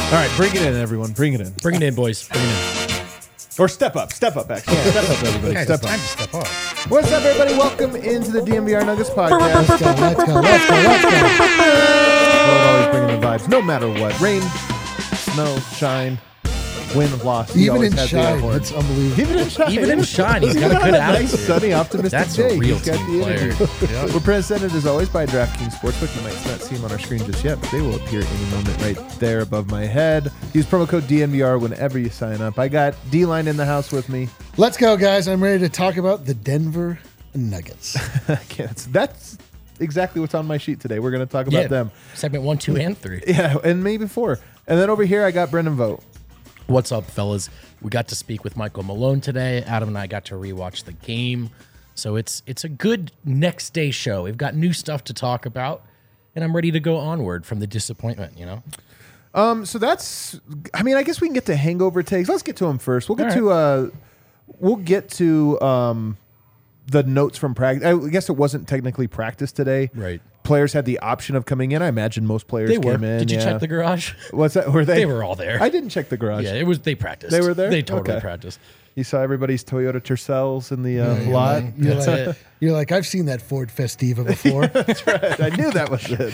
All right, bring it in, everyone. Bring it in. Bring it in, boys. Bring it in. Or step up, actually. Step up, everybody. Guys, Step it's time up. to step up. What's up, everybody? Welcome into the DMVR Nuggets podcast. Let's go. Well, always bringing the vibes, no matter what. Rain, snow, shine, win, loss. He Even always in has the shine, award. it's unbelievable. Even in shine. Even in shine, he's got a on good nice, attitude. sunny, optimistic That's day. a real He's got team the player. energy. We're presented, as always, by DraftKings Sportsbook. You might not see them on our screen just yet, but they will appear any moment right there above my head. Use promo code DNVR whenever you sign up. I got D-Line in the house with me. Let's go, guys. I'm ready to talk about the Denver Nuggets. That's exactly what's on my sheet today. We're going to talk about them. Segment 1, 2, and 3. Yeah, and maybe 4. And then over here, I got Brendan Vogt. What's up, fellas? We got to speak with Michael Malone today. Adam and I got to rewatch the game. So it's a good next day show. We've got new stuff to talk about, and I'm ready to go onward from the disappointment, you know? So that's, I mean, I guess we can get to hangover takes. Let's get to them first. We'll get to the notes from practice. I guess it wasn't technically practice today. Right. Players had the option of coming in. I imagine most players They were. came in. Did you check the garage? What's that? Were they? They were all there. I didn't check the garage. Yeah, they practiced. They were there? They totally Okay. practiced. You saw everybody's Toyota Tercels in the You're lot. you're like, I've seen that Ford Festiva before. I knew that was it.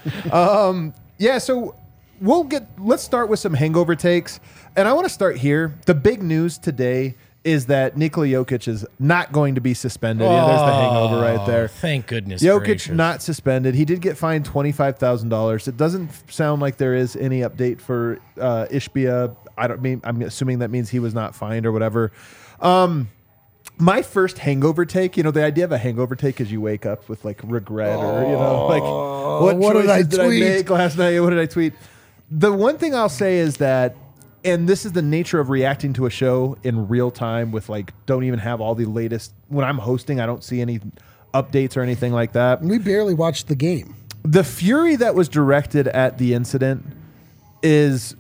Yeah, so let's start with some hangover takes. And I want to start here. The big news today is that Nikola Jokic is not going to be suspended. Yeah, there's the hangover right there. Thank goodness. Jokic gracious. not suspended. He did get fined $25,000. It doesn't sound like there is any update for Ishbia. I'm assuming that means he was not fined or whatever. My first hangover take, the idea of a hangover take is you wake up with like regret or like what did I choices did I tweet? make last night? What did I tweet? The one thing I'll say is that, and this is the nature of reacting to a show in real time with like, don't even have all the latest. When I'm hosting, I don't see any updates or anything like that. We barely watched the game. The fury that was directed at the incident is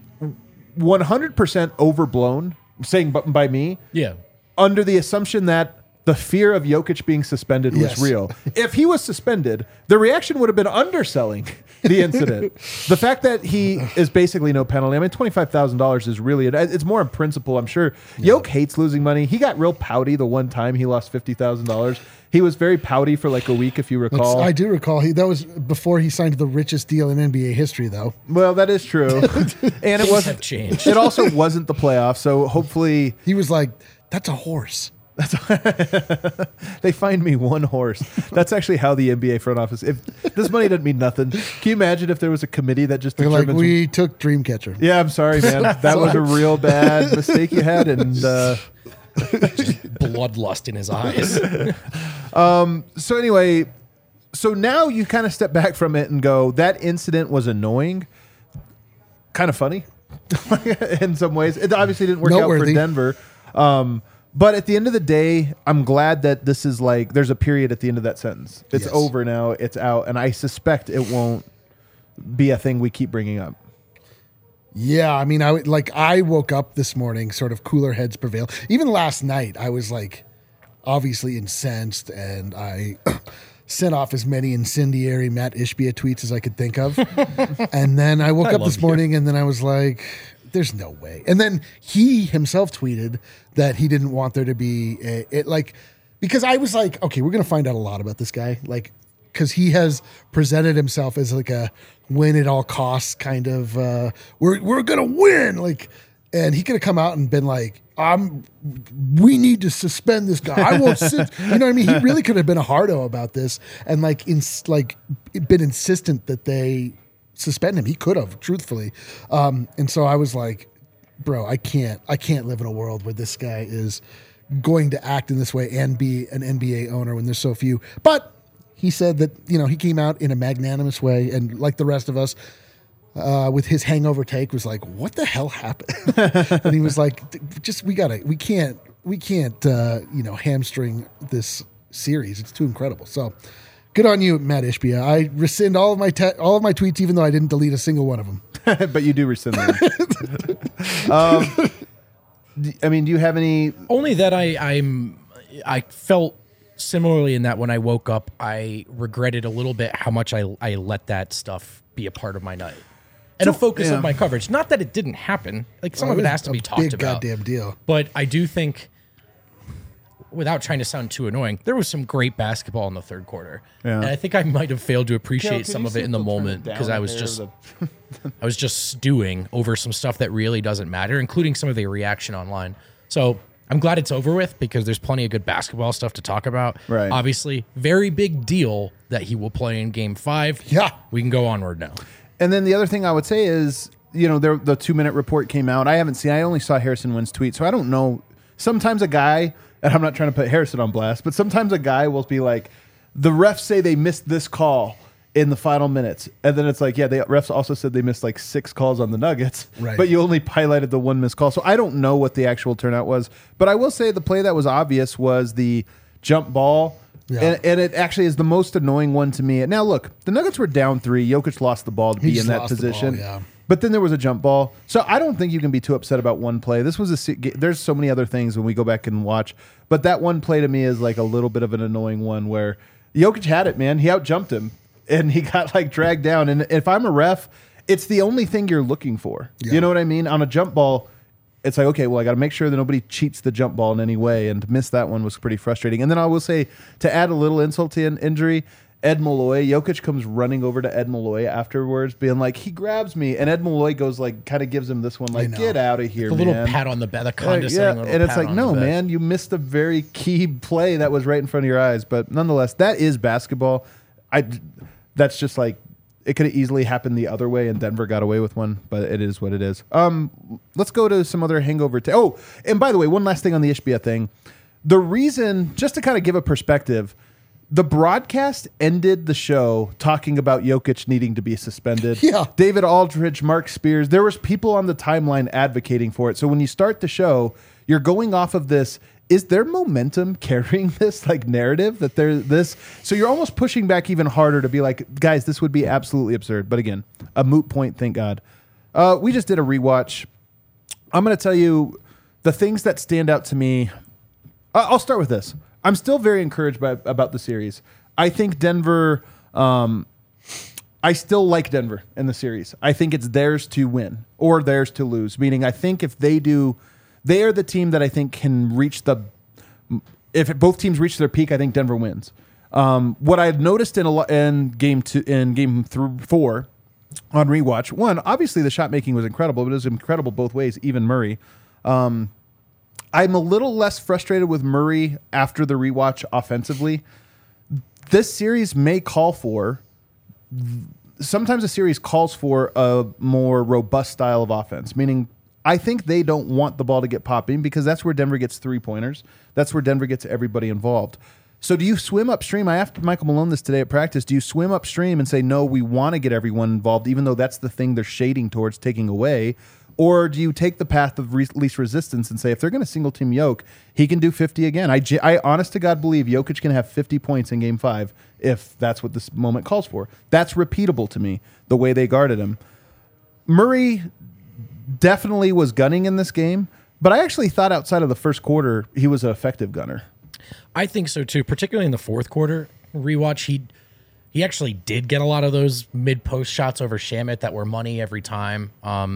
100% overblown, saying by me, Yeah. under the assumption that the fear of Jokic being suspended was Yes. real. If he was suspended, the reaction would have been underselling the incident. The fact that he is basically no penalty. I mean, $25,000 is really, it's more in principle, I'm sure. Jokic hates losing money. He got real pouty the one time he lost $50,000. He was very pouty for like a week, if you recall. I do recall. That was before he signed the richest deal in NBA history, though. Well, that is true. And it Things wasn't have changed. It also wasn't the playoffs, so hopefully He was like, that's a horse. they find me one horse. That's actually how the NBA front office. If this money doesn't mean nothing, can you imagine if there was a committee that just They're like, determines? we took Dreamcatcher. Yeah, I'm sorry, man. That was a real bad mistake you had, and Bloodlust in his eyes. so anyway, so now you kind of step back from it and go, that incident was annoying, kind of funny in some ways. It obviously didn't work out for Noteworthy. Denver. But at the end of the day, I'm glad that this is like, there's a period at the end of that sentence. It's Yes. over now. It's out. And I suspect it won't be a thing we keep bringing up. Yeah, I mean, I woke up this morning, sort of cooler heads prevail. Even last night, I was like, obviously incensed, and I sent off as many incendiary Matt Ishbia tweets as I could think of. And then I woke up love this you. morning, and then I was like, there's no way. And then he himself tweeted that he didn't want there to be because I was like, okay, we're gonna find out a lot about this guy, like, because he has presented himself as like a win at all costs kind of we're gonna win, like, and he could have come out and been like, we need to suspend this guy. I won't sit. You know what I mean? He really could have been a hardo about this and been insistent that they suspend him. He could have, truthfully. And so I was like, bro, I can't live in a world where this guy is going to act in this way and be an NBA owner when there's so few. But he said that, he came out in a magnanimous way, and like the rest of us, with his hangover take, was like, what the hell happened? And he was like, we can't hamstring this series. It's too incredible. So good on you, Matt Ishbia. I rescind all of my tweets, even though I didn't delete a single one of them. But you do rescind them. I mean, do you have any? Only that I felt similarly in that when I woke up, I regretted a little bit how much I let that stuff be a part of my night. and a focus of my coverage. Not that it didn't happen. Like some of it has to be talked about. Big goddamn deal. But I do think, without trying to sound too annoying, there was some great basketball in the third quarter. Yeah. And I think I might have failed to appreciate some of it in the moment because I was just stewing over some stuff that really doesn't matter, including some of the reaction online. So I'm glad it's over with because there's plenty of good basketball stuff to talk about. Right. Obviously, very big deal that he will play in Game 5. Yeah. We can go onward now. And then the other thing I would say is, the 2-minute report came out. I only saw Harrison Wynn's tweet, so I don't know. Sometimes a guy, and I'm not trying to put Harrison on blast, but sometimes a guy will be like, the refs say they missed this call in the final minutes. And then it's like, the refs also said they missed like 6 calls on the Nuggets, right. But you only highlighted the 1 missed call. So I don't know what the actual turnout was. But I will say the play that was obvious was the jump ball. Yeah. And it actually is the most annoying one to me. Now, look, the Nuggets were down 3. Jokic lost the ball to be in that position. But then there was a jump ball. So I don't think you can be too upset about one play. This was there's so many other things when we go back and watch. But that one play to me is like a little bit of an annoying one where Jokic had it, man. He out-jumped him, and he got like dragged down. And if I'm a ref, it's the only thing you're looking for. Yeah. You know what I mean? On a jump ball, it's like, okay, well, I got to make sure that nobody cheats the jump ball in any way. And to miss that one was pretty frustrating. And then I will say, to add a little insult to injury, Ed Malloy, Jokic comes running over to Ed Malloy afterwards, being like, he grabs me. And Ed Malloy goes like, kind of gives him this one, like, get out of here, man. A little pat on the back, the condescending little and it's pat like, on no, the back. man, you missed a very key play that was right in front of your eyes. But nonetheless, that is basketball. That's just like, it could have easily happened the other way, and Denver got away with one, but it is what it is. Let's go to some other hangover. And by the way, one last thing on the Ishbia thing. The reason, just to kind of give a perspective, the broadcast ended the show talking about Jokic needing to be suspended. Yeah. David Aldridge, Mark Spears, there was people on the timeline advocating for it. So when you start the show, you're going off of this. Is there momentum carrying this like narrative that there's this? So you're almost pushing back even harder to be like, guys, this would be absolutely absurd. But again, a moot point, thank God. We just did a rewatch. I'm going to tell you the things that stand out to me. I'll start with this. I'm still very encouraged about the series. I think Denver, I still like Denver in the series. I think it's theirs to win or theirs to lose, meaning I think if they do, they are the team that I think can reach if both teams reach their peak, I think Denver wins. What I've noticed in game 4 on rewatch, one, obviously the shot making was incredible, but it was incredible both ways, even Murray. I'm a little less frustrated with Murray after the rewatch offensively. This series may call for, sometimes a series calls for a more robust style of offense, meaning I think they don't want the ball to get popping because that's where Denver gets 3-pointers. That's where Denver gets everybody involved. So do you swim upstream? I asked Michael Malone this today at practice. Do you swim upstream and say, no, we want to get everyone involved, even though that's the thing they're shading towards taking away? Or do you take the path of least resistance and say, if they're going to single team Jokic, he can do 50 again? I honest to God believe Jokic can have 50 points in game 5 if that's what this moment calls for. That's repeatable to me, the way they guarded him. Murray definitely was gunning in this game, but I actually thought outside of the first quarter, he was an effective gunner. I think so too, particularly in the fourth quarter rewatch. He actually did get a lot of those mid-post shots over Shamet that were money every time.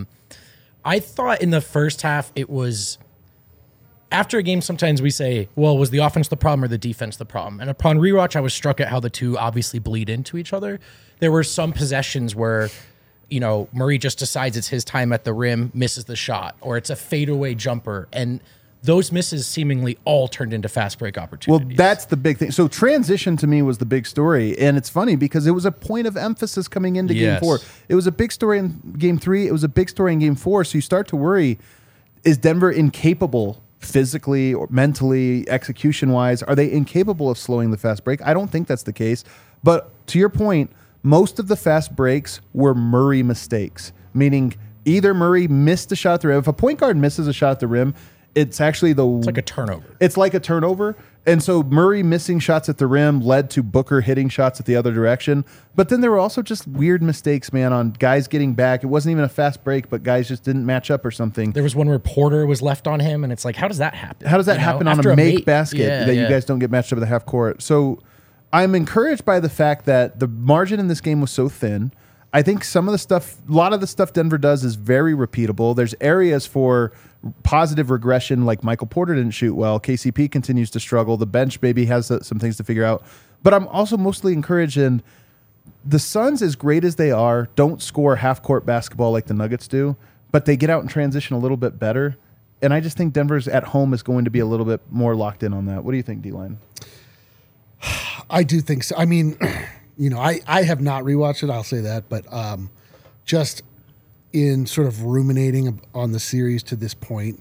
I thought in the first half it was, after a game sometimes we say, well, was the offense the problem or the defense the problem? And upon rewatch, I was struck at how the two obviously bleed into each other. There were some possessions where, Murray just decides it's his time at the rim, misses the shot, or it's a fadeaway jumper, and those misses seemingly all turned into fast break opportunities. Well, that's the big thing. So transition to me was the big story. And it's funny because it was a point of emphasis coming into game 4. It was a big story in game 3. It was a big story in game 4. So you start to worry, is Denver incapable physically or mentally, execution-wise? Are they incapable of slowing the fast break? I don't think that's the case. But to your point, most of the fast breaks were Murray mistakes, meaning either Murray missed a shot at the rim. If a point guard misses a shot at the rim, it's actually it's like a turnover. It's like a turnover. And so Murray missing shots at the rim led to Booker hitting shots at the other direction. But then there were also just weird mistakes, man, on guys getting back. It wasn't even a fast break, but guys just didn't match up or something. There was one where Porter was left on him, and it's like, how does that happen? How does that happen on a make basket you guys don't get matched up at the half court? So I'm encouraged by the fact that the margin in this game was so thin. I think a lot of the stuff Denver does is very repeatable. There's areas for positive regression, like Michael Porter didn't shoot well. KCP continues to struggle. The bench maybe has some things to figure out. But I'm also mostly encouraged in the Suns, as great as they are, don't score half-court basketball like the Nuggets do, but they get out in transition a little bit better. And I just think Denver's at home is going to be a little bit more locked in on that. What do you think, D-Line? I do think so. I mean, I have not rewatched it, I'll say that, but just in sort of ruminating on the series to this point,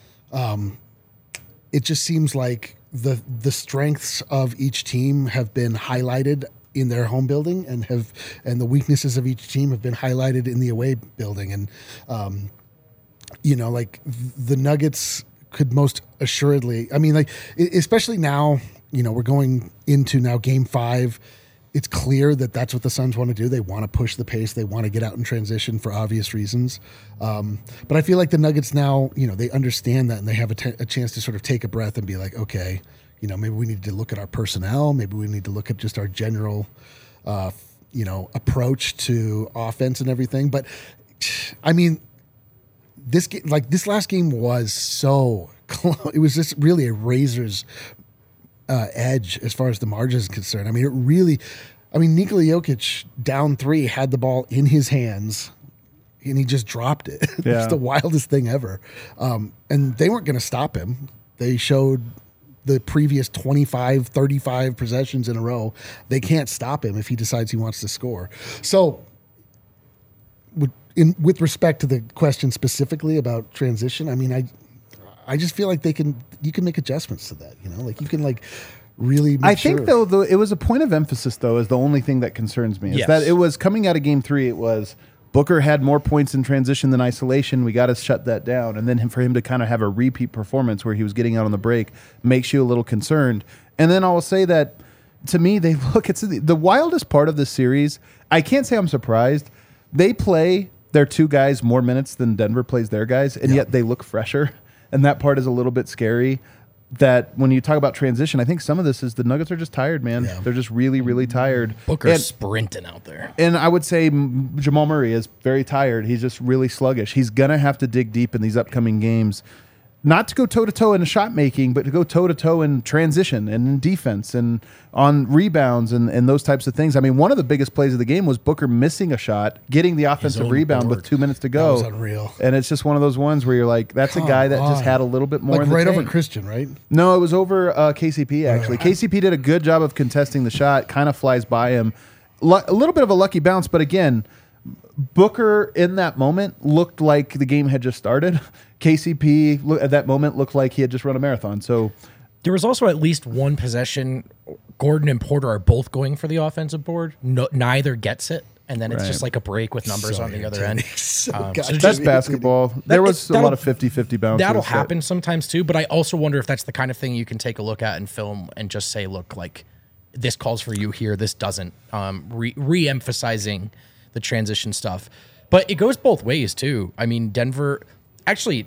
it just seems like the strengths of each team have been highlighted in their home building and the weaknesses of each team have been highlighted in the away building. And, like the Nuggets could most assuredly, I mean, like, especially now, we're going into now game 5. It's clear that that's what the Suns want to do. They want to push the pace. They want to get out in transition for obvious reasons. But I feel like the Nuggets now, they understand that and they have a chance to sort of take a breath and be like, okay, maybe we need to look at our personnel. Maybe we need to look at just our general, approach to offense and everything. But I mean, this last game was so close. It was just really a razor's edge as far as the margin is concerned. I mean, Nikola Jokic down 3 had the ball in his hands and he just dropped it. Yeah. It's the wildest thing ever. And they weren't going to stop him. They showed the previous 25, 35 possessions in a row. They can't stop him if he decides he wants to score. So with respect to the question specifically about transition, I mean, I just feel like you can make adjustments to that, like you can really make think though it was a point of emphasis though is the only thing that concerns me is that it was coming out of game 3. It was Booker had more points in transition than isolation. We got to shut that down. And then for him to kind of have a repeat performance where he was getting out on the break makes you a little concerned. And then I will say that to me, it's the wildest part of this series. I can't say I'm surprised. They play their 2 guys more minutes than Denver plays their guys, and yet they look fresher. And that part is a little bit scary. That when you talk about transition, I think some of this is the Nuggets are just tired, man. Yeah. They're just really, really tired. Booker's sprinting out there. And I would say Jamal Murray is very tired. He's just really sluggish. He's going to have to dig deep in these upcoming games. Not to go toe-to-toe in shot making, but to go toe-to-toe in transition and in defense and on rebounds and those types of things. I mean, one of the biggest plays of the game was Booker missing a shot, getting the offensive rebound with 2 minutes to go. That was unreal. And it's just one of those ones where you're like, that's a guy that just had a little bit more in the right tank. Over Christian, right? No, it was over KCP, actually. KCP did a good job of contesting the shot, kind of flies by him. A little bit of a lucky bounce, but again, Booker in that moment looked like the game had just started. KCP at that moment looked like he had just run a marathon. So there was also at least one possession. Gordon and Porter are both going for the offensive board. Neither gets it. And then it's just like a break with numbers on the other end. That's basketball. There was a lot of 50-50 bounces. That'll happen sometimes too. But I also wonder if that's the kind of thing you can take a look at in film and just say, look, like this calls for you here. This doesn't. Re-emphasizing the transition stuff. But it goes both ways too. I mean, Jokic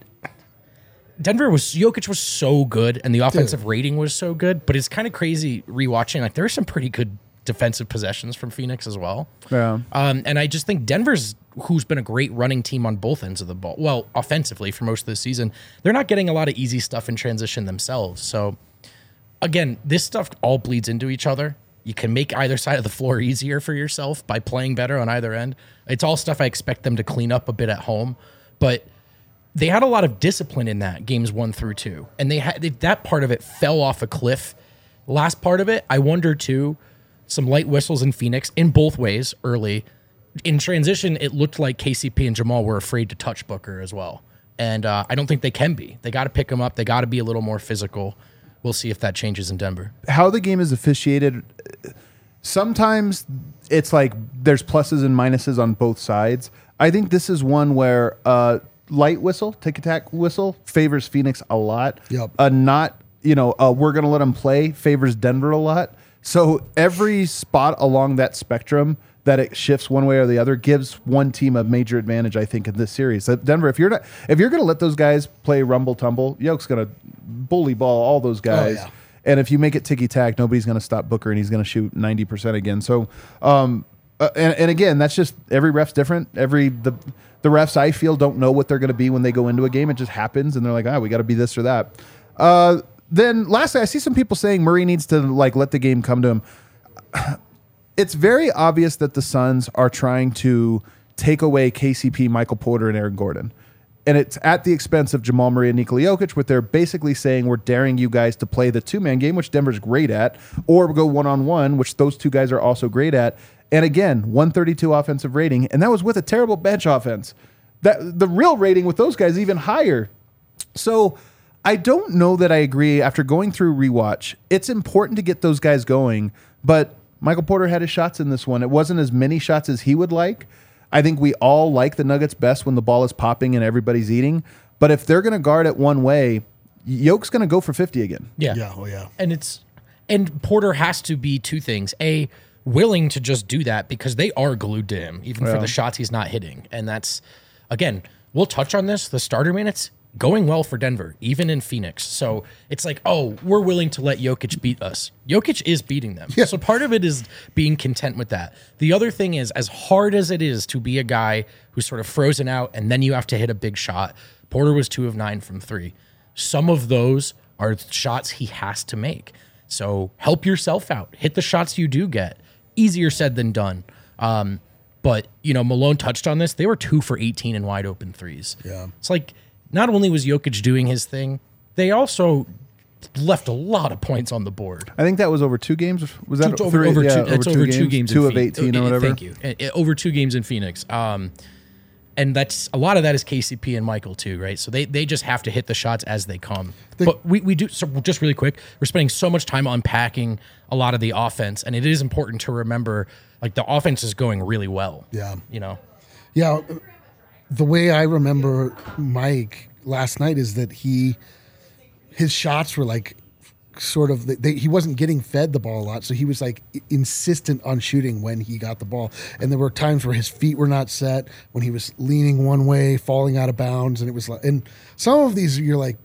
was so good and the offensive rating was so good, but it's kind of crazy rewatching. Like there's some pretty good defensive possessions from Phoenix as well. Yeah. And I just think Denver's, who's been a great running team on both ends of the ball, well, offensively for most of the season, they're not getting a lot of easy stuff in transition themselves. So again, this stuff all bleeds into each other. You can make either side of the floor easier for yourself by playing better on either end. It's all stuff I expect them to clean up a bit at home, but they had a lot of discipline in that games 1 through 2, and that part of it fell off a cliff. Last part of it, I wonder too, some light whistles in Phoenix in both ways early. In transition, it looked like KCP and Jamal were afraid to touch Booker as well, and I don't think they can be. They got to pick him up. They got to be a little more physical. We'll see if that changes in Denver. How the game is officiated, sometimes it's like there's pluses and minuses on both sides. I think this is one where light whistle, tick-tack whistle, favors Phoenix a lot. Yep. We're going to let them play favors Denver a lot. So every spot along that spectrum that it shifts one way or the other gives one team a major advantage, I think, in this series. So Denver, if you're going to let those guys play rumble tumble, Yoke's going to bully ball all those guys. Oh, yeah. And if you make it ticky tack, nobody's going to stop Booker, and he's going to shoot 90% again. So and again, that's just every ref's different. The refs I feel don't know what they're going to be when they go into a game. It just happens, and they're like, we got to be this or that. Then lastly, I see some people saying Murray needs to like let the game come to him. It's very obvious that the Suns are trying to take away KCP, Michael Porter, and Aaron Gordon. And it's at the expense of Jamal Murray and Nikola Jokic, where they're basically saying we're daring you guys to play the two-man game, which Denver's great at, or go one-on-one, which those two guys are also great at. And again, 132 offensive rating, and that was with a terrible bench offense. The real rating with those guys is even higher. So I don't know that I agree. After going through rewatch, it's important to get those guys going, but Michael Porter had his shots in this one. It wasn't as many shots as he would like. I think we all like the Nuggets best when the ball is popping and everybody's eating. But if they're going to guard it one way, Yoke's going to go for 50 again. Yeah. Yeah. Oh, yeah. And Porter has to be two things. A, willing to just do that because they are glued to him, even for the shots he's not hitting. And that's, again, we'll touch on this. The starter minutes going well for Denver, even in Phoenix. So it's like, we're willing to let Jokic beat us. Jokic is beating them. Yeah. So part of it is being content with that. The other thing is, as hard as it is to be a guy who's sort of frozen out and then you have to hit a big shot, Porter was 2 of 9 from 3. Some of those are shots he has to make. So help yourself out. Hit the shots you do get. Easier said than done. But, Malone touched on this. They were 2 for 18 in wide open threes. Yeah. It's like, not only was Jokic doing his thing, they also left a lot of points on the board. I think that was over 2 games. Was that over 2 games? 2 of 18 or whatever. Thank you. Over 2 games in Phoenix. And that's a lot of that is KCP and Michael too, right? So they just have to hit the shots as they come. But we do, so just really quick, we're spending so much time unpacking a lot of the offense, and it is important to remember, like, the offense is going really well. Yeah. Yeah. The way I remember Mike last night is that his shots were like sort of, he wasn't getting fed the ball a lot, so he was like insistent on shooting when he got the ball. And there were times where his feet were not set, when he was leaning one way, falling out of bounds, and it was like, and some of these you're like,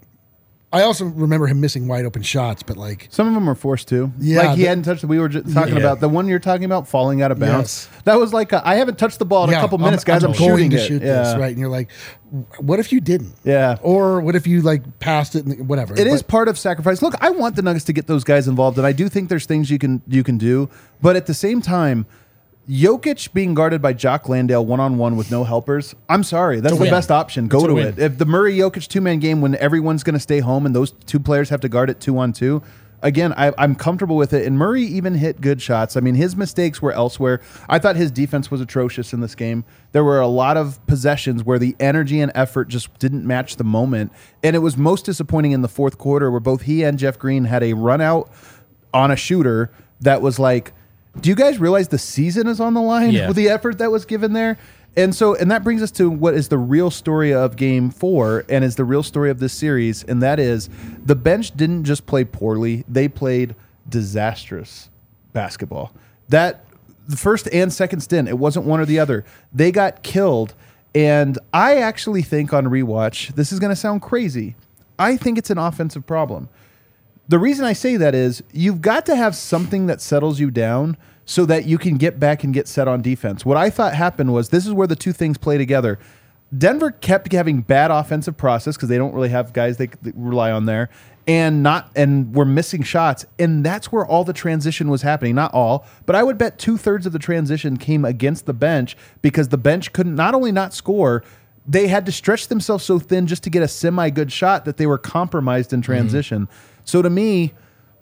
I also remember him missing wide open shots, but like some of them were forced to. Yeah, like he hadn't touched. We were just talking about the one you're talking about falling out of bounds. Yes. That was like I haven't touched the ball in a couple minutes, guys. I'm going to shooting shoot this, right? And you're like, what if you didn't? Yeah. Or what if you like passed it? And whatever. It is part of sacrifice. Look, I want the Nuggets to get those guys involved, and I do think there's things you can do. But at the same time, Jokic being guarded by Jock Landale one-on-one with no helpers, I'm sorry. That's the best option. Go to it. If the Murray-Jokic two-man game when everyone's going to stay home and those two players have to guard it 2-on-2, again, I'm comfortable with it. And Murray even hit good shots. I mean, his mistakes were elsewhere. I thought his defense was atrocious in this game. There were a lot of possessions where the energy and effort just didn't match the moment. And it was most disappointing in the fourth quarter where both he and Jeff Green had a run out on a shooter that was like, do you guys realize the season is on the line with the effort that was given there? And that brings us to what is the real story of Game 4 and is the real story of this series, and that is the bench didn't just play poorly, they played disastrous basketball. The first and second stint, it wasn't one or the other. They got killed, and I actually think on rewatch, this is going to sound crazy, I think it's an offensive problem. The reason I say that is you've got to have something that settles you down so that you can get back and get set on defense. What I thought happened was this is where the two things play together. Denver kept having bad offensive process because they don't really have guys they rely on there, and we're missing shots, and that's where all the transition was happening. Not all, but I would bet 2/3 of the transition came against the bench because the bench couldn't not only not score, they had to stretch themselves so thin just to get a semi-good shot that they were compromised in transition. So to me,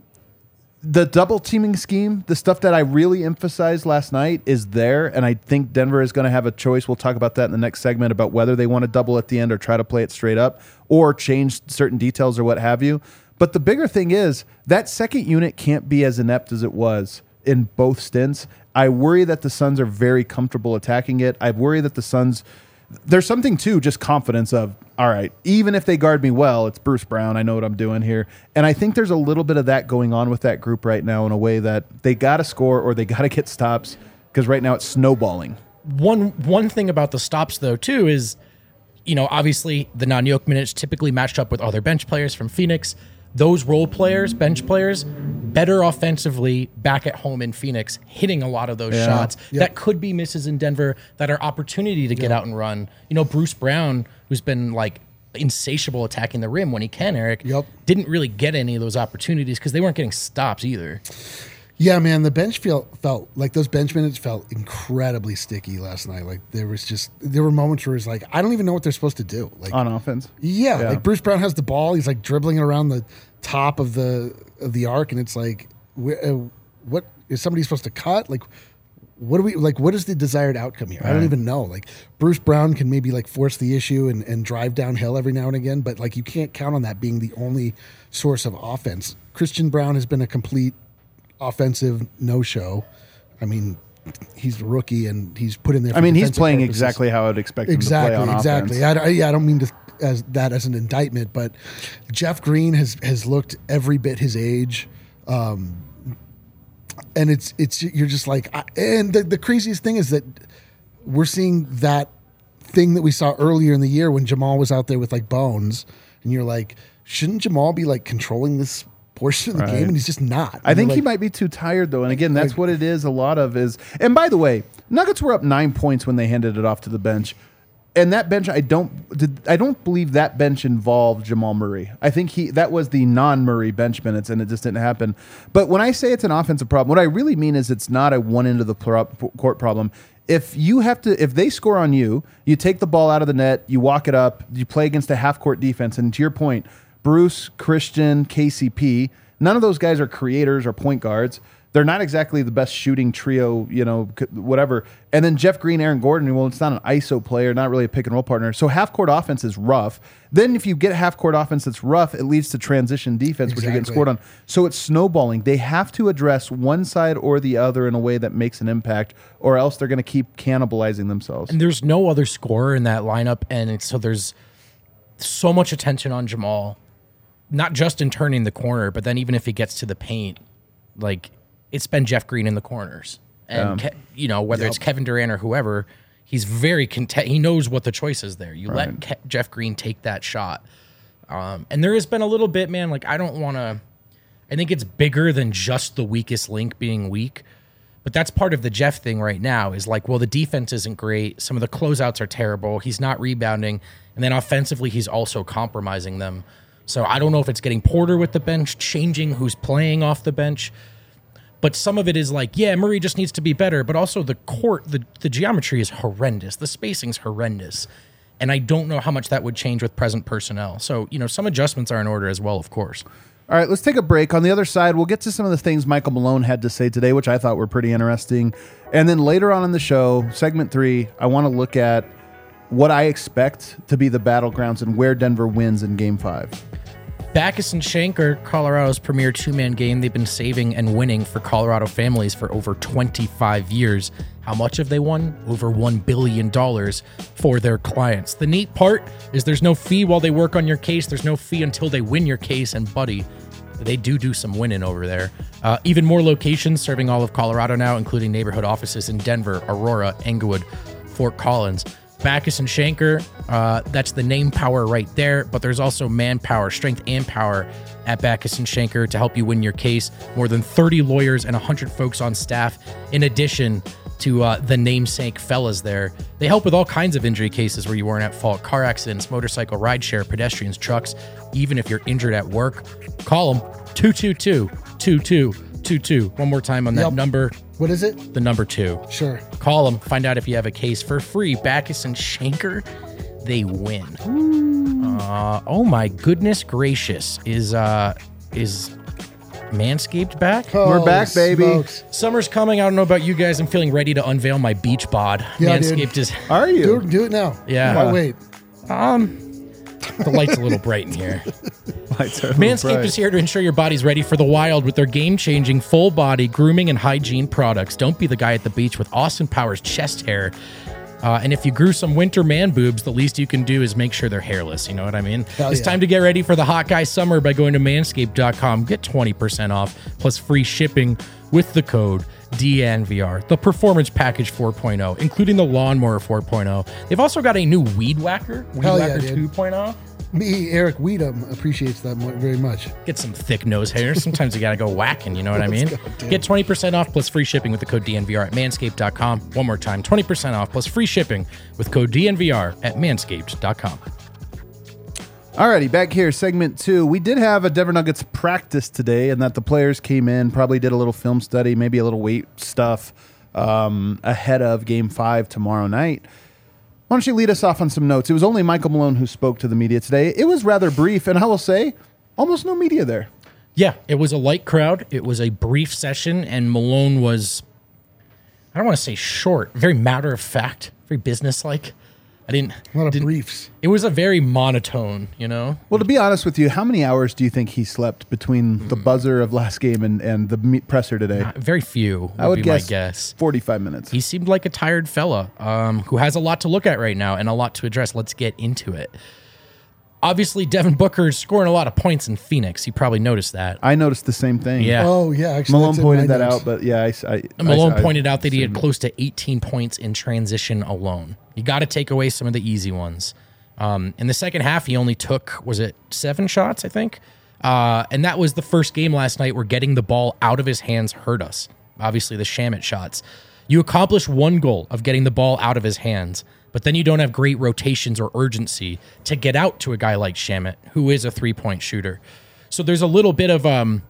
the double teaming scheme, the stuff that I really emphasized last night is there, and I think Denver is going to have a choice. We'll talk about that in the next segment about whether they want to double at the end or try to play it straight up or change certain details or what have you. But the bigger thing is that second unit can't be as inept as it was in both stints. I worry that the Suns are very comfortable attacking it. I worry that the Suns... There's something too, just confidence of, all right, even if they guard me well, it's Bruce Brown. I know what I'm doing here. And I think there's a little bit of that going on with that group right now in a way that they got to score or they got to get stops because right now it's snowballing. One thing about the stops, though, too, is, obviously the non-Yoke minutes typically matched up with other bench players from Phoenix. those role players, bench players, better offensively back at home in Phoenix, hitting a lot of those shots that could be misses in Denver that are opportunity to get out and run. You know, Bruce Brown, who's been like insatiable attacking the rim when he can, Eric, didn't really get any of those opportunities because they weren't getting stops either. Yeah, man, the bench felt like those bench minutes felt incredibly sticky last night. Like there were moments where it's like, I don't even know what they're supposed to do. Like on offense. Yeah, like Bruce Brown has the ball. He's like dribbling around the top of the arc, and it's like, what is somebody supposed to cut? Like, what is the desired outcome here? Right. I don't even know. Like Bruce Brown can maybe like force the issue and drive downhill every now and again, but like you can't count on that being the only source of offense. Christian Brown has been a complete offensive no-show. I mean, he's a rookie and he's put in there. I mean, he's playing purposes. Exactly how I'd expect him to play on offense. I don't mean to as an indictment, but Jeff Green has looked every bit his age, and it's you're just like, and the craziest thing is that we're seeing that thing that we saw earlier in the year when Jamal was out there with like Bones, and you're like, shouldn't Jamal be like controlling this portion of the game, and he's just not. I think he might be too tired though, and again, that's what it is. A lot of is, and by the way, Nuggets were up 9 points when they handed it off to the bench, and that bench, I don't believe that bench involved Jamal Murray. I think that was the non-Murray bench minutes, and it just didn't happen. But when I say it's an offensive problem, what I really mean is it's not a one end of the court problem. If they score on you, you take the ball out of the net, you walk it up, you play against a half court defense, and to your point, Bruce, Christian, KCP, none of those guys are creators or point guards. They're not exactly the best shooting trio, whatever. And then Jeff Green, Aaron Gordon, well, it's not an ISO player, not really a pick and roll partner. So half-court offense is rough. Then if you get half-court offense that's rough, it leads to transition defense, which you're getting scored on. So it's snowballing. They have to address one side or the other in a way that makes an impact, or else they're going to keep cannibalizing themselves. And there's no other scorer in that lineup, and so there's so much attention on Jamal. Not just in turning the corner, but then even if he gets to the paint, like it's been Jeff Green in the corners, and whether it's Kevin Durant or whoever, he's very content. He knows what the choice is there. You let Jeff Green take that shot, and there has been a little bit, man. Like I think it's bigger than just the weakest link being weak, but that's part of the Jeff thing right now. Is like, well, the defense isn't great. Some of the closeouts are terrible. He's not rebounding, and then offensively, he's also compromising them. So I don't know if it's getting Porter with the bench, changing who's playing off the bench. But some of it is like, yeah, Murray just needs to be better. But also the court, the geometry is horrendous. The spacing's horrendous. And I don't know how much that would change with present personnel. So, some adjustments are in order as well, of course. All right, let's take a break. On the other side, we'll get to some of the things Michael Malone had to say today, which I thought were pretty interesting. And then later on in the show, segment 3, I want to look at what I expect to be the battlegrounds and where Denver wins in Game 5. Backus and Schenker, Colorado's premier two-man game. They've been saving and winning for Colorado families for over 25 years. How much have they won? Over $1 billion for their clients. The neat part is there's no fee while they work on your case. There's no fee until they win your case. And buddy, they do some winning over there. Even more locations serving all of Colorado now, including neighborhood offices in Denver, Aurora, Englewood, Fort Collins. Backus and Schenker, that's the name power right there, but there's also manpower, strength and power at Backus and Schenker to help you win your case. More than 30 lawyers and 100 folks on staff, in addition to the namesake fellas there. They help with all kinds of injury cases where you weren't at fault: car accidents, motorcycle rideshare, pedestrians, trucks. Even if you're injured at work, call them 222-2222. One more time on that number. What is it? The number 2. Sure. Call them. Find out if you have a case for free. Backus and Schenker, they win. Oh my goodness gracious! Is Manscaped back? We're back, baby. Smokes. Summer's coming. I don't know about you guys. I'm feeling ready to unveil my beach bod. Yeah, Manscaped is. Are you? Do it now. Yeah. Why wait? The light's a little bright in here. Manscaped is here to ensure your body's ready for the wild with their game-changing full-body grooming and hygiene products. Don't be the guy at the beach with Austin Powers chest hair. And if you grew some winter man boobs, the least you can do is make sure they're hairless. You know what I mean? It's time to get ready for the hot guy summer by going to manscaped.com. Get 20% off plus free shipping with the code DNVR. The Performance Package 4.0, including the Lawnmower 4.0. They've also got a new Weed Whacker, 2.0. Me, Eric Weedham, appreciates that very much. Get some thick nose hairs. Sometimes you got to go whacking, you know what I mean? Get 20% off plus free shipping with the code DNVR at manscaped.com. One more time, 20% off plus free shipping with code DNVR at manscaped.com. Alrighty, back here, segment 2. We did have a Denver Nuggets practice today, and that the players came in, probably did a little film study, maybe a little weight stuff ahead of Game 5 tomorrow night. Why don't you lead us off on some notes? It was only Michael Malone who spoke to the media today. It was rather brief, and I will say, almost no media there. Yeah, it was a light crowd. It was a brief session, and Malone was, I don't want to say short, very matter of fact, very businesslike. A lot of briefs. It was a very monotone, you know? Well, to be honest with you, how many hours do you think he slept between the buzzer of last game and the presser today? Very few I would be guess, my guess. 45 minutes. He seemed like a tired fella who has a lot to look at right now and a lot to address. Let's get into it. Obviously, Devin Booker's scoring a lot of points in Phoenix. You probably noticed that. I noticed the same thing. Yeah. Oh, yeah. Actually, Malone that's in pointed my that notes. out, but yeah, Malone pointed out that he had close to 18 points in transition alone. You got to take away some of the easy ones. In the second half, he only took, was it 7 shots, I think? And that was the first game last night where getting the ball out of his hands hurt us. Obviously, the Shamet shots. You accomplish one goal of getting the ball out of his hands, but then you don't have great rotations or urgency to get out to a guy like Shamet, who is a three-point shooter. So there's a little bit of kind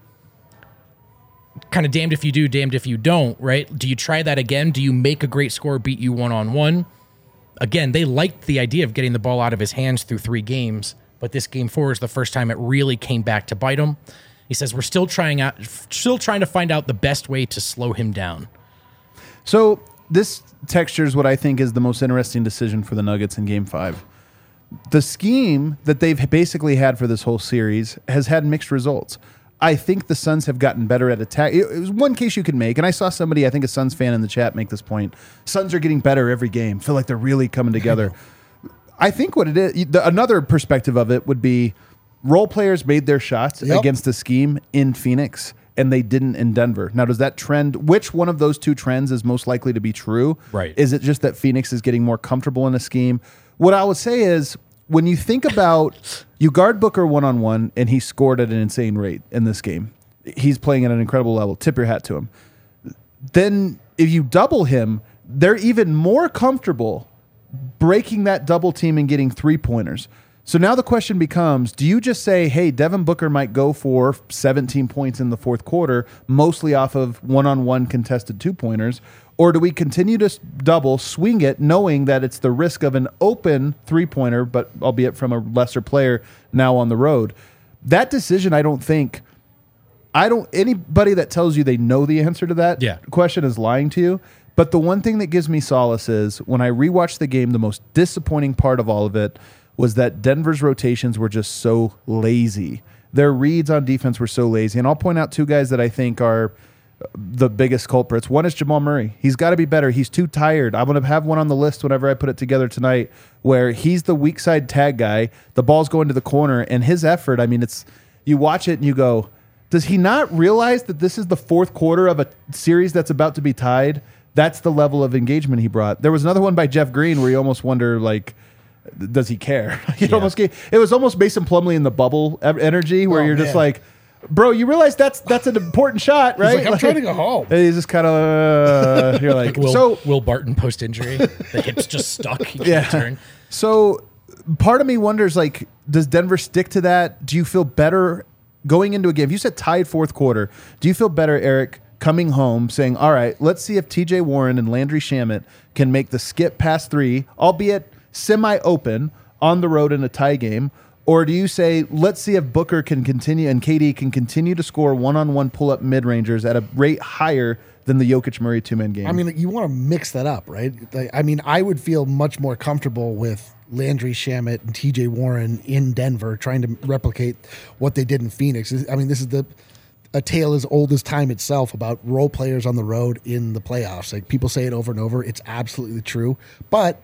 of damned if you do, damned if you don't, right? Do you try that again? Do you make a great scorer beat you one-on-one? Again, they liked the idea of getting the ball out of his hands through 3 games, but this game 4 is the first time it really came back to bite him. He says we're still trying to find out the best way to slow him down. So this texture is what I think is the most interesting decision for the Nuggets in Game 5. The scheme that they've basically had for this whole series has had mixed results. I think the Suns have gotten better at attack. It was one case you could make, and I saw somebody, I think a Suns fan in the chat, make this point. Suns are getting better every game. Feel like they're really coming together. I think what it is, another perspective of it would be role players made their shots against the scheme in Phoenix, and they didn't in Denver. Now, does that trend, which one of those 2 trends is most likely to be true? Right. Is it just that Phoenix is getting more comfortable in a scheme? What I would say is, when you think about, you guard Booker one-on-one, and he scored at an insane rate in this game. He's playing at an incredible level. Tip your hat to him. Then if you double him, they're even more comfortable breaking that double team and getting 3-pointers. So now the question becomes, do you just say, hey, Devin Booker might go for 17 points in the fourth quarter, mostly off of one-on-one contested 2-pointers, or do we continue to double, swing it, knowing that it's the risk of an open 3-pointer, but albeit from a lesser player now on the road? That decision, anybody that tells you they know the answer to that question is lying to you. But the one thing that gives me solace is when I rewatched the game, the most disappointing part of all of it was that Denver's rotations were just so lazy. Their reads on defense were so lazy. And I'll point out 2 guys that I think are the biggest culprits. One is Jamal Murray. He's got to be better. He's too tired. I'm going to have one on the list whenever I put it together tonight where he's the weak side tag guy. The ball's going to the corner, and his effort, I mean, it's you watch it and you go, does he not realize that this is the fourth quarter of a series that's about to be tied? That's the level of engagement he brought. There was another one by Jeff Green where you almost wonder, like, does he care? It was almost Mason Plumlee in the bubble energy where you're just like, bro, you realize that's an important shot, right? He's like, I'm trying to go home. And he's just kind of, you're like, Will Barton post injury, the hip's just stuck. He can't turn. So part of me wonders, like, does Denver stick to that? Do you feel better going into a game? If you said tied fourth quarter, do you feel better, Eric, coming home saying, all right, let's see if TJ Warren and Landry Shamet can make the skip past 3, albeit semi-open on the road in a tie game? Or do you say, let's see if Booker can continue and KD can continue to score one-on-one pull-up mid-rangers at a rate higher than the Jokic-Murray two-man game? I mean, you want to mix that up, right? I mean, I would feel much more comfortable with Landry Shamet and TJ Warren in Denver trying to replicate what they did in Phoenix. I mean, this is a tale as old as time itself about role players on the road in the playoffs. Like, people say it over and over. It's absolutely true. But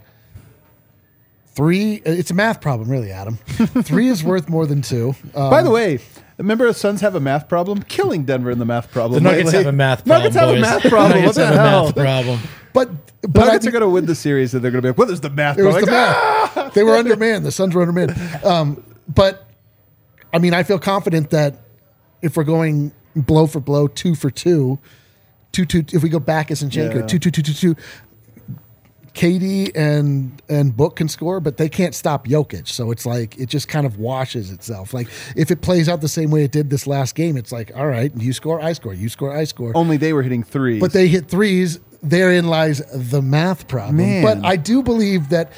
3, it's a math problem, really, Adam. 3 is worth more than 2. By the way, remember the Suns have a math problem? Killing Denver in the math problem. The Nuggets have a math problem. Nuggets have a math problem. What the hell? Math problem. But Nuggets are going to win the series, and they're going to be like, "What is the math?" It was the math. They were undermanned. The Suns were undermanned. But I mean, I feel confident that if we're going blow for blow, 2 for 2, 2-2, if we go back as Zinchenko, 2-2-2-2-2, KD and Book can score, but they can't stop Jokic. So it's like it just kind of washes itself. Like if it plays out the same way it did this last game, it's like, all right, you score, I score, you score, I score. Only they were hitting threes. But they hit threes. Therein lies the math problem. Man. But I do believe that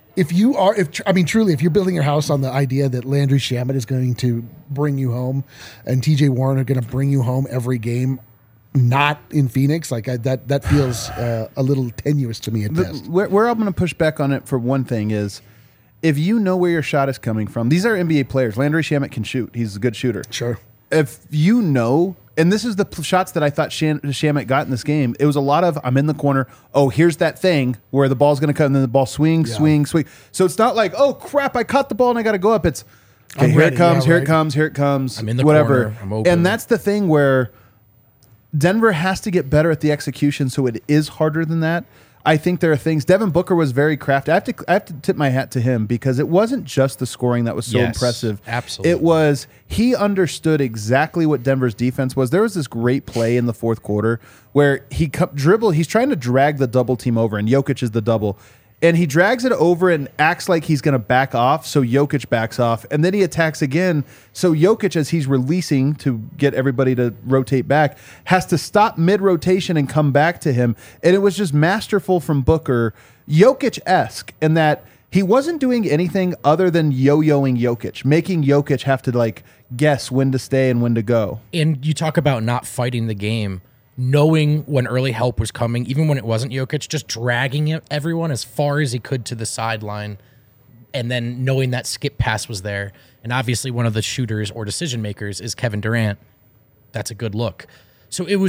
truly, if you're building your house on the idea that Landry Shamet is going to bring you home and TJ Warren are going to bring you home every game, not in Phoenix, that feels a little tenuous to me at best. Where I'm going to push back on it for one thing is, if you know where your shot is coming from, these are NBA players. Landry Shamet can shoot. He's a good shooter. Sure. If you know, and this is the shots that I thought Shamet got in this game, it was a lot of, I'm in the corner, oh, here's that thing where the ball's going to come, and then the ball swing. So it's not like, oh, crap, I caught the ball and I got to go up. It's, okay, here it comes. I'm in the whatever. corner. I'm open. And that's the thing where Denver has to get better at the execution, so it is harder than that. I think there are things. Devin Booker was very crafty. I have to tip my hat to him because it wasn't just the scoring that was so impressive. Absolutely. It was he understood exactly what Denver's defense was. There was this great play in the fourth quarter where he he's trying to drag the double team over, and Jokic is the double. And he drags it over and acts like he's going to back off, so Jokic backs off. And then he attacks again. So Jokic, as he's releasing to get everybody to rotate back, has to stop mid-rotation and come back to him. And it was just masterful from Booker, Jokic-esque, in that he wasn't doing anything other than yo-yoing Jokic, making Jokic have to guess when to stay and when to go. And you talk about not fighting the game. Knowing when early help was coming, even when it wasn't Jokic, just dragging everyone as far as he could to the sideline, and then knowing that skip pass was there. And obviously one of the shooters or decision makers is Kevin Durant. That's a good look. So it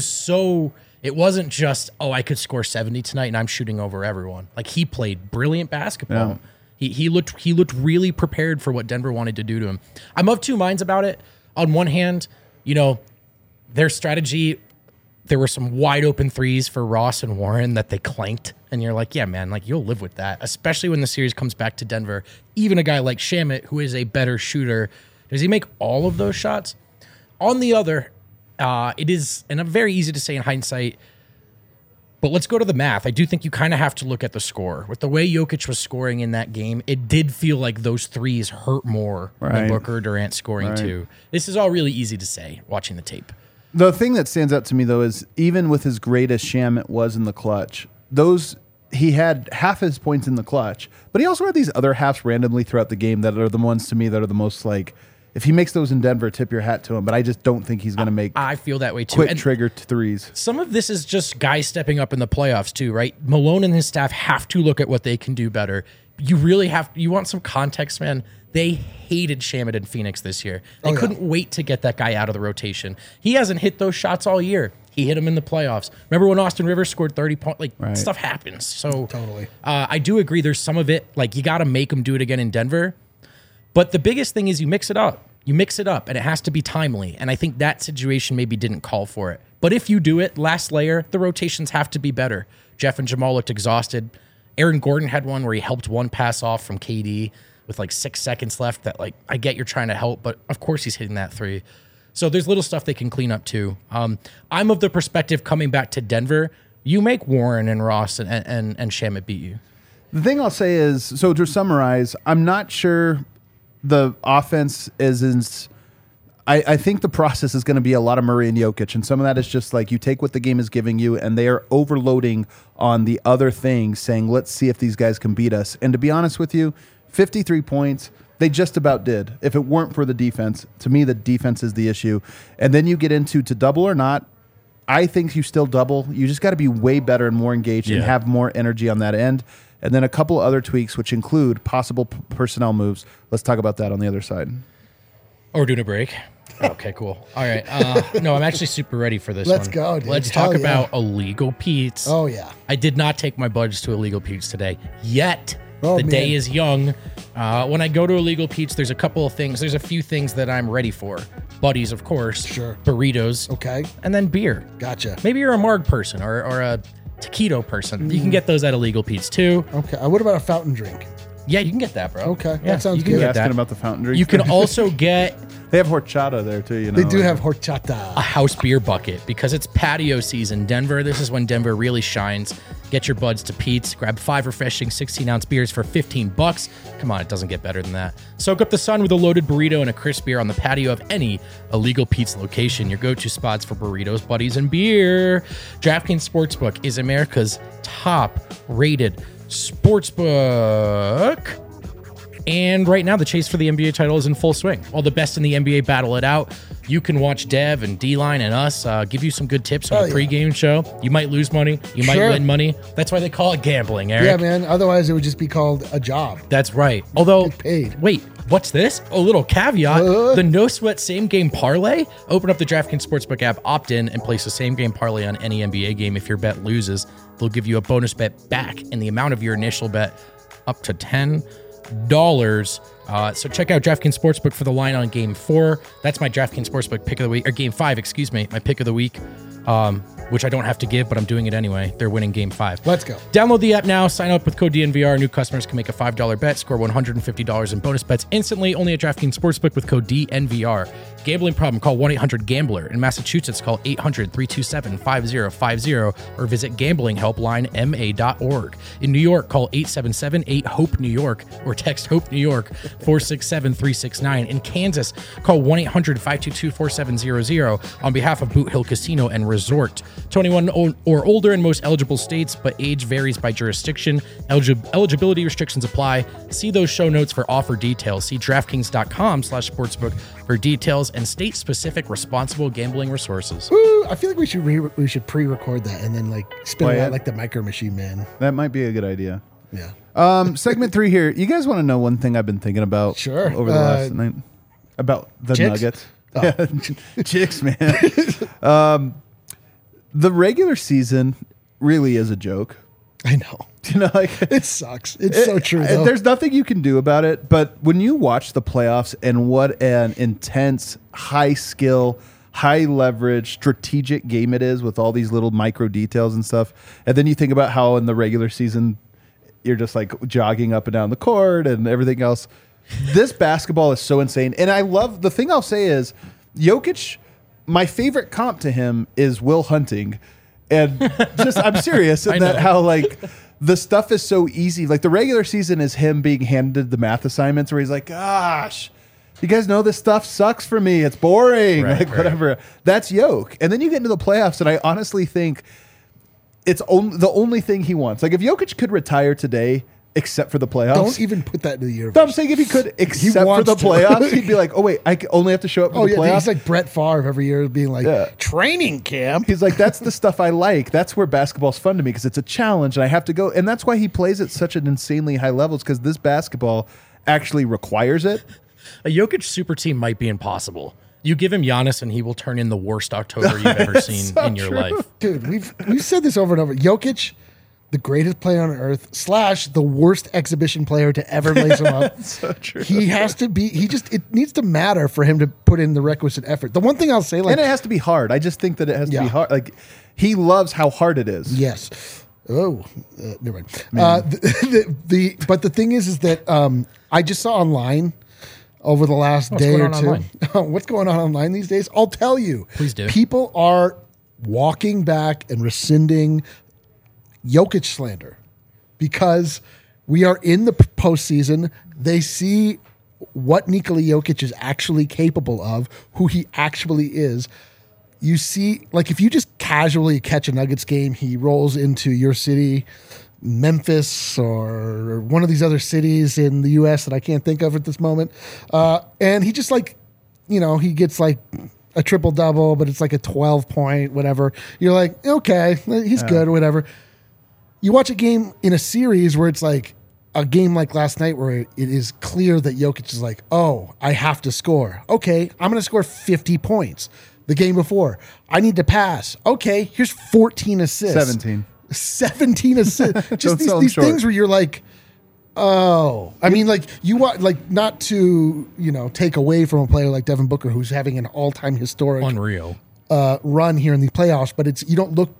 wasn't just, oh, I could score 70 tonight and I'm shooting over everyone. Like, he played brilliant basketball. Yeah. He looked really prepared for what Denver wanted to do to him. I'm of two minds about it. On one hand, their strategy, there were some wide open threes for Ross and Warren that they clanked. And you're like, yeah, man, you'll live with that, especially when the series comes back to Denver. Even a guy like Shamet, who is a better shooter, does he make all of those shots? On the other, it is, and very easy to say in hindsight, but let's go to the math. I do think you kind of have to look at the score. With the way Jokic was scoring in that game, it did feel like those threes hurt more than Booker or Durant scoring too. This is all really easy to say watching the tape. The thing that stands out to me, though, is even with as great as Shamet was in the clutch, he had half his points in the clutch, but he also had these other halves randomly throughout the game that are the ones to me that are the most if he makes those in Denver, tip your hat to him. But I just don't think he's going to make I feel that way too. Quick trigger threes. Some of this is just guys stepping up in the playoffs too, right? Malone and his staff have to look at what they can do better. You really you want some context, man. They hated Shamet in Phoenix this year. They couldn't wait to get that guy out of the rotation. He hasn't hit those shots all year. He hit them in the playoffs. Remember when Austin Rivers scored 30 points? Stuff happens. So totally. I do agree there's some of it, you got to make him do it again in Denver. But the biggest thing is you mix it up. You mix it up, and it has to be timely. And I think that situation maybe didn't call for it. But if you do it, last layer, the rotations have to be better. Jeff and Jamal looked exhausted. Aaron Gordon had one where he helped one pass off from KD with 6 seconds left that I get you're trying to help, but of course he's hitting that three. So there's little stuff they can clean up too. I'm of the perspective coming back to Denver, you make Warren and Ross and Shamet beat you. The thing I'll say is, so to summarize, I'm not sure the offense is I think the process is going to be a lot of Murray and Jokic, and some of that is just you take what the game is giving you, and they are overloading on the other things, saying, let's see if these guys can beat us. And to be honest with you, 53 points, they just about did. If it weren't for the defense, to me, the defense is the issue. And then you get into to double or not. I think you still double. You just got to be way better and more engaged and have more energy on that end. And then a couple other tweaks, which include possible personnel moves. Let's talk about that on the other side. Or doing a break. Okay, cool. All right. No, I'm actually super ready for this Let's one. go, dude. Let's talk about Illegal Pete's. Oh, yeah. I did not take my buddies to Illegal Pete's today. Yet, the day is young. When I go to Illegal Pete's, there's a couple of things. There's a few things that I'm ready for. Buddies, of course. Sure. Burritos. Okay. And then beer. Gotcha. Maybe you're a Marg person or a taquito person. You can get those at Illegal Pete's too. Okay. What about a fountain drink? Yeah, you can get that, bro. Okay, Yeah, that sounds you can good. get Asking that. about the fountain drinks. You can also get They have horchata there too. You know, They do like- have a horchata. house beer bucket because it's patio season. Denver, this is when Denver really shines. Get your buds to Pete's. Grab 5 refreshing 16-ounce beers for $15. Come on, it doesn't get better than that. Soak up the sun with a loaded burrito and a crisp beer on the patio of any illegal Pete's location. Your go-to spots for burritos, buddies, and beer. DraftKings Sportsbook is America's top-rated sportsbook. And right now, the chase for the NBA title is in full swing. All the best in the NBA battle it out. You can watch Dev and D-Line and us give you some good tips on the pregame show. You might lose money. You might Sure. win money. That's why they call it gambling, Eric. Yeah, man. Otherwise, it would just be called a job. That's right. Although, Get paid. wait, what's this? A little caveat. The no sweat same game parlay. Open up the DraftKings Sportsbook app, opt in, and place a same game parlay on any NBA game. If your bet loses, they'll give you a bonus bet back in the amount of your initial bet, up to $10. So check out DraftKings Sportsbook for the line on Game 4. That's my DraftKings Sportsbook pick of the week, or Game 5, excuse me, my pick of the week, which I don't have to give, but I'm doing it anyway. They're winning Game 5. Let's go. Download the app now. Sign up with code DNVR. New customers can make a $5 bet, score $150 in bonus bets instantly. Only at DraftKings Sportsbook with code DNVR. Gambling problem? Call 1-800-GAMBLER. In Massachusetts, call 800-327-5050 or visit gamblinghelplinema.org. In New York, call 877-8-HOPE-NEW YORK or text HOPE New York 467-369. In Kansas, call 1-800-522-4700 on behalf of Boot Hill Casino and Resort. 21 or older in most eligible states, but age varies by jurisdiction. Eligibility restrictions apply. See those show notes for offer details. See DraftKings.com/sportsbook for details and state-specific responsible gambling resources. Ooh, I feel like we should pre-record that and then like spin Play it out it? like the Micro Machine Man. That might be a good idea. Yeah. Segment 3 here. You guys want to know one thing I've been thinking about Sure. over the last night? About the chicks? Nuggets. Yeah, chicks, man. The regular season really is a joke. I know. You know, like It sucks. It's so true, though. There's nothing you can do about it. But when you watch the playoffs and what an intense, high skill, high leverage, strategic game it is with all these little micro details and stuff, and then you think about how in the regular season you're just like jogging up and down the court and everything else. This basketball is so insane. And I love, the thing I'll say is Jokic, my favorite comp to him is Will Hunting. And just, I'm serious in that how like the stuff is so easy. Like the regular season is him being handed the math assignments where he's like, gosh, you guys know this stuff sucks for me. It's boring. Right, like right. whatever. That's Jokic. And then you get into the playoffs and I honestly think it's the only thing he wants. Like if Jokic could retire today, except for the playoffs. Don't even put that into the universe. No, I'm saying if he could, except for wants the to. playoffs, he'd be like, oh wait, I only have to show up for Oh the yeah, playoffs. he's like Brett Favre every year being like Yeah. training camp. He's like, that's the stuff I like. That's where basketball's fun to me because it's a challenge and I have to go. And that's why he plays at such an insanely high levels because this basketball actually requires it. A Jokic super team might be impossible. You give him Giannis and he will turn in the worst October you've ever seen so in your true. life. Dude, we've said this over and over. Jokic, the greatest player on earth / the worst exhibition player to ever lace him up. So true. He has to be. It needs to matter for him to put in the requisite effort. The one thing I'll say, like, And it has to be hard. I just think that it has to Yeah. be hard. Like he loves how hard it is. yes. Oh, never mind. But the thing is that I just saw online over the last day going or on two. online? What's going on online these days? I'll tell you. Please do. People are walking back and rescinding Jokic slander because we are in the postseason. They see what Nikola Jokic is actually capable of, who he actually is. You see, like if you just casually catch a Nuggets game, he rolls into your city, Memphis or one of these other cities in the U.S. that I can't think of at this moment. And he just like, he gets like a triple double, but it's like a 12-point, whatever. You're like, okay, he's good or whatever. You watch a game in a series where it's like a game like last night where it is clear that Jokic is like, oh, I have to score. Okay, I'm going to score 50 points. The game before, I need to pass. Okay, here's 14 assists. 17 assists. Don't Just sell 'em these short. things where you're like, oh. I mean, like you want, like not to, take away from a player like Devin Booker who's having an all-time historic Unreal. run here in the playoffs, but you don't look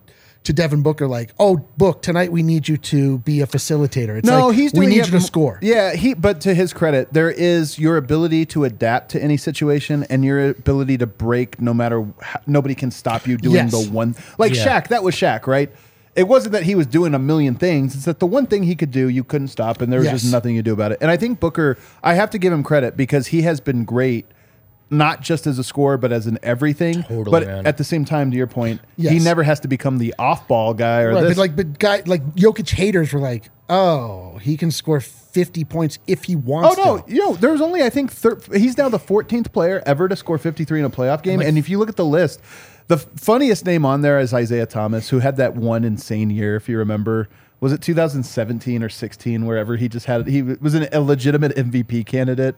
to Devin Booker like, "Oh, Book, tonight we need you to be a facilitator." It's No, like, he's we doing need it you to score. Yeah, but to his credit, there is your ability to adapt to any situation and your ability to break no matter nobody can stop you doing Yes. the one. Like Yeah. Shaq, that was Shaq, right? It wasn't that he was doing a million things. It's that the one thing he could do, you couldn't stop, and there was Yes. just nothing you do about it. And I think Booker, I have to give him credit because he has been great, not just as a scorer, but as an everything. Totally, but man. at the same time, to your point, he Yes. never has to become the off-ball guy or Right, this. but Jokic haters were like, "Oh, he can score 50 points if he wants Oh no! to." There's only I think he's now the 14th player ever to score 53 in a playoff game. And if you look at the list, the funniest name on there is Isaiah Thomas, who had that one insane year. If you remember, was it 2017 or 16? Wherever he was an illegitimate MVP candidate.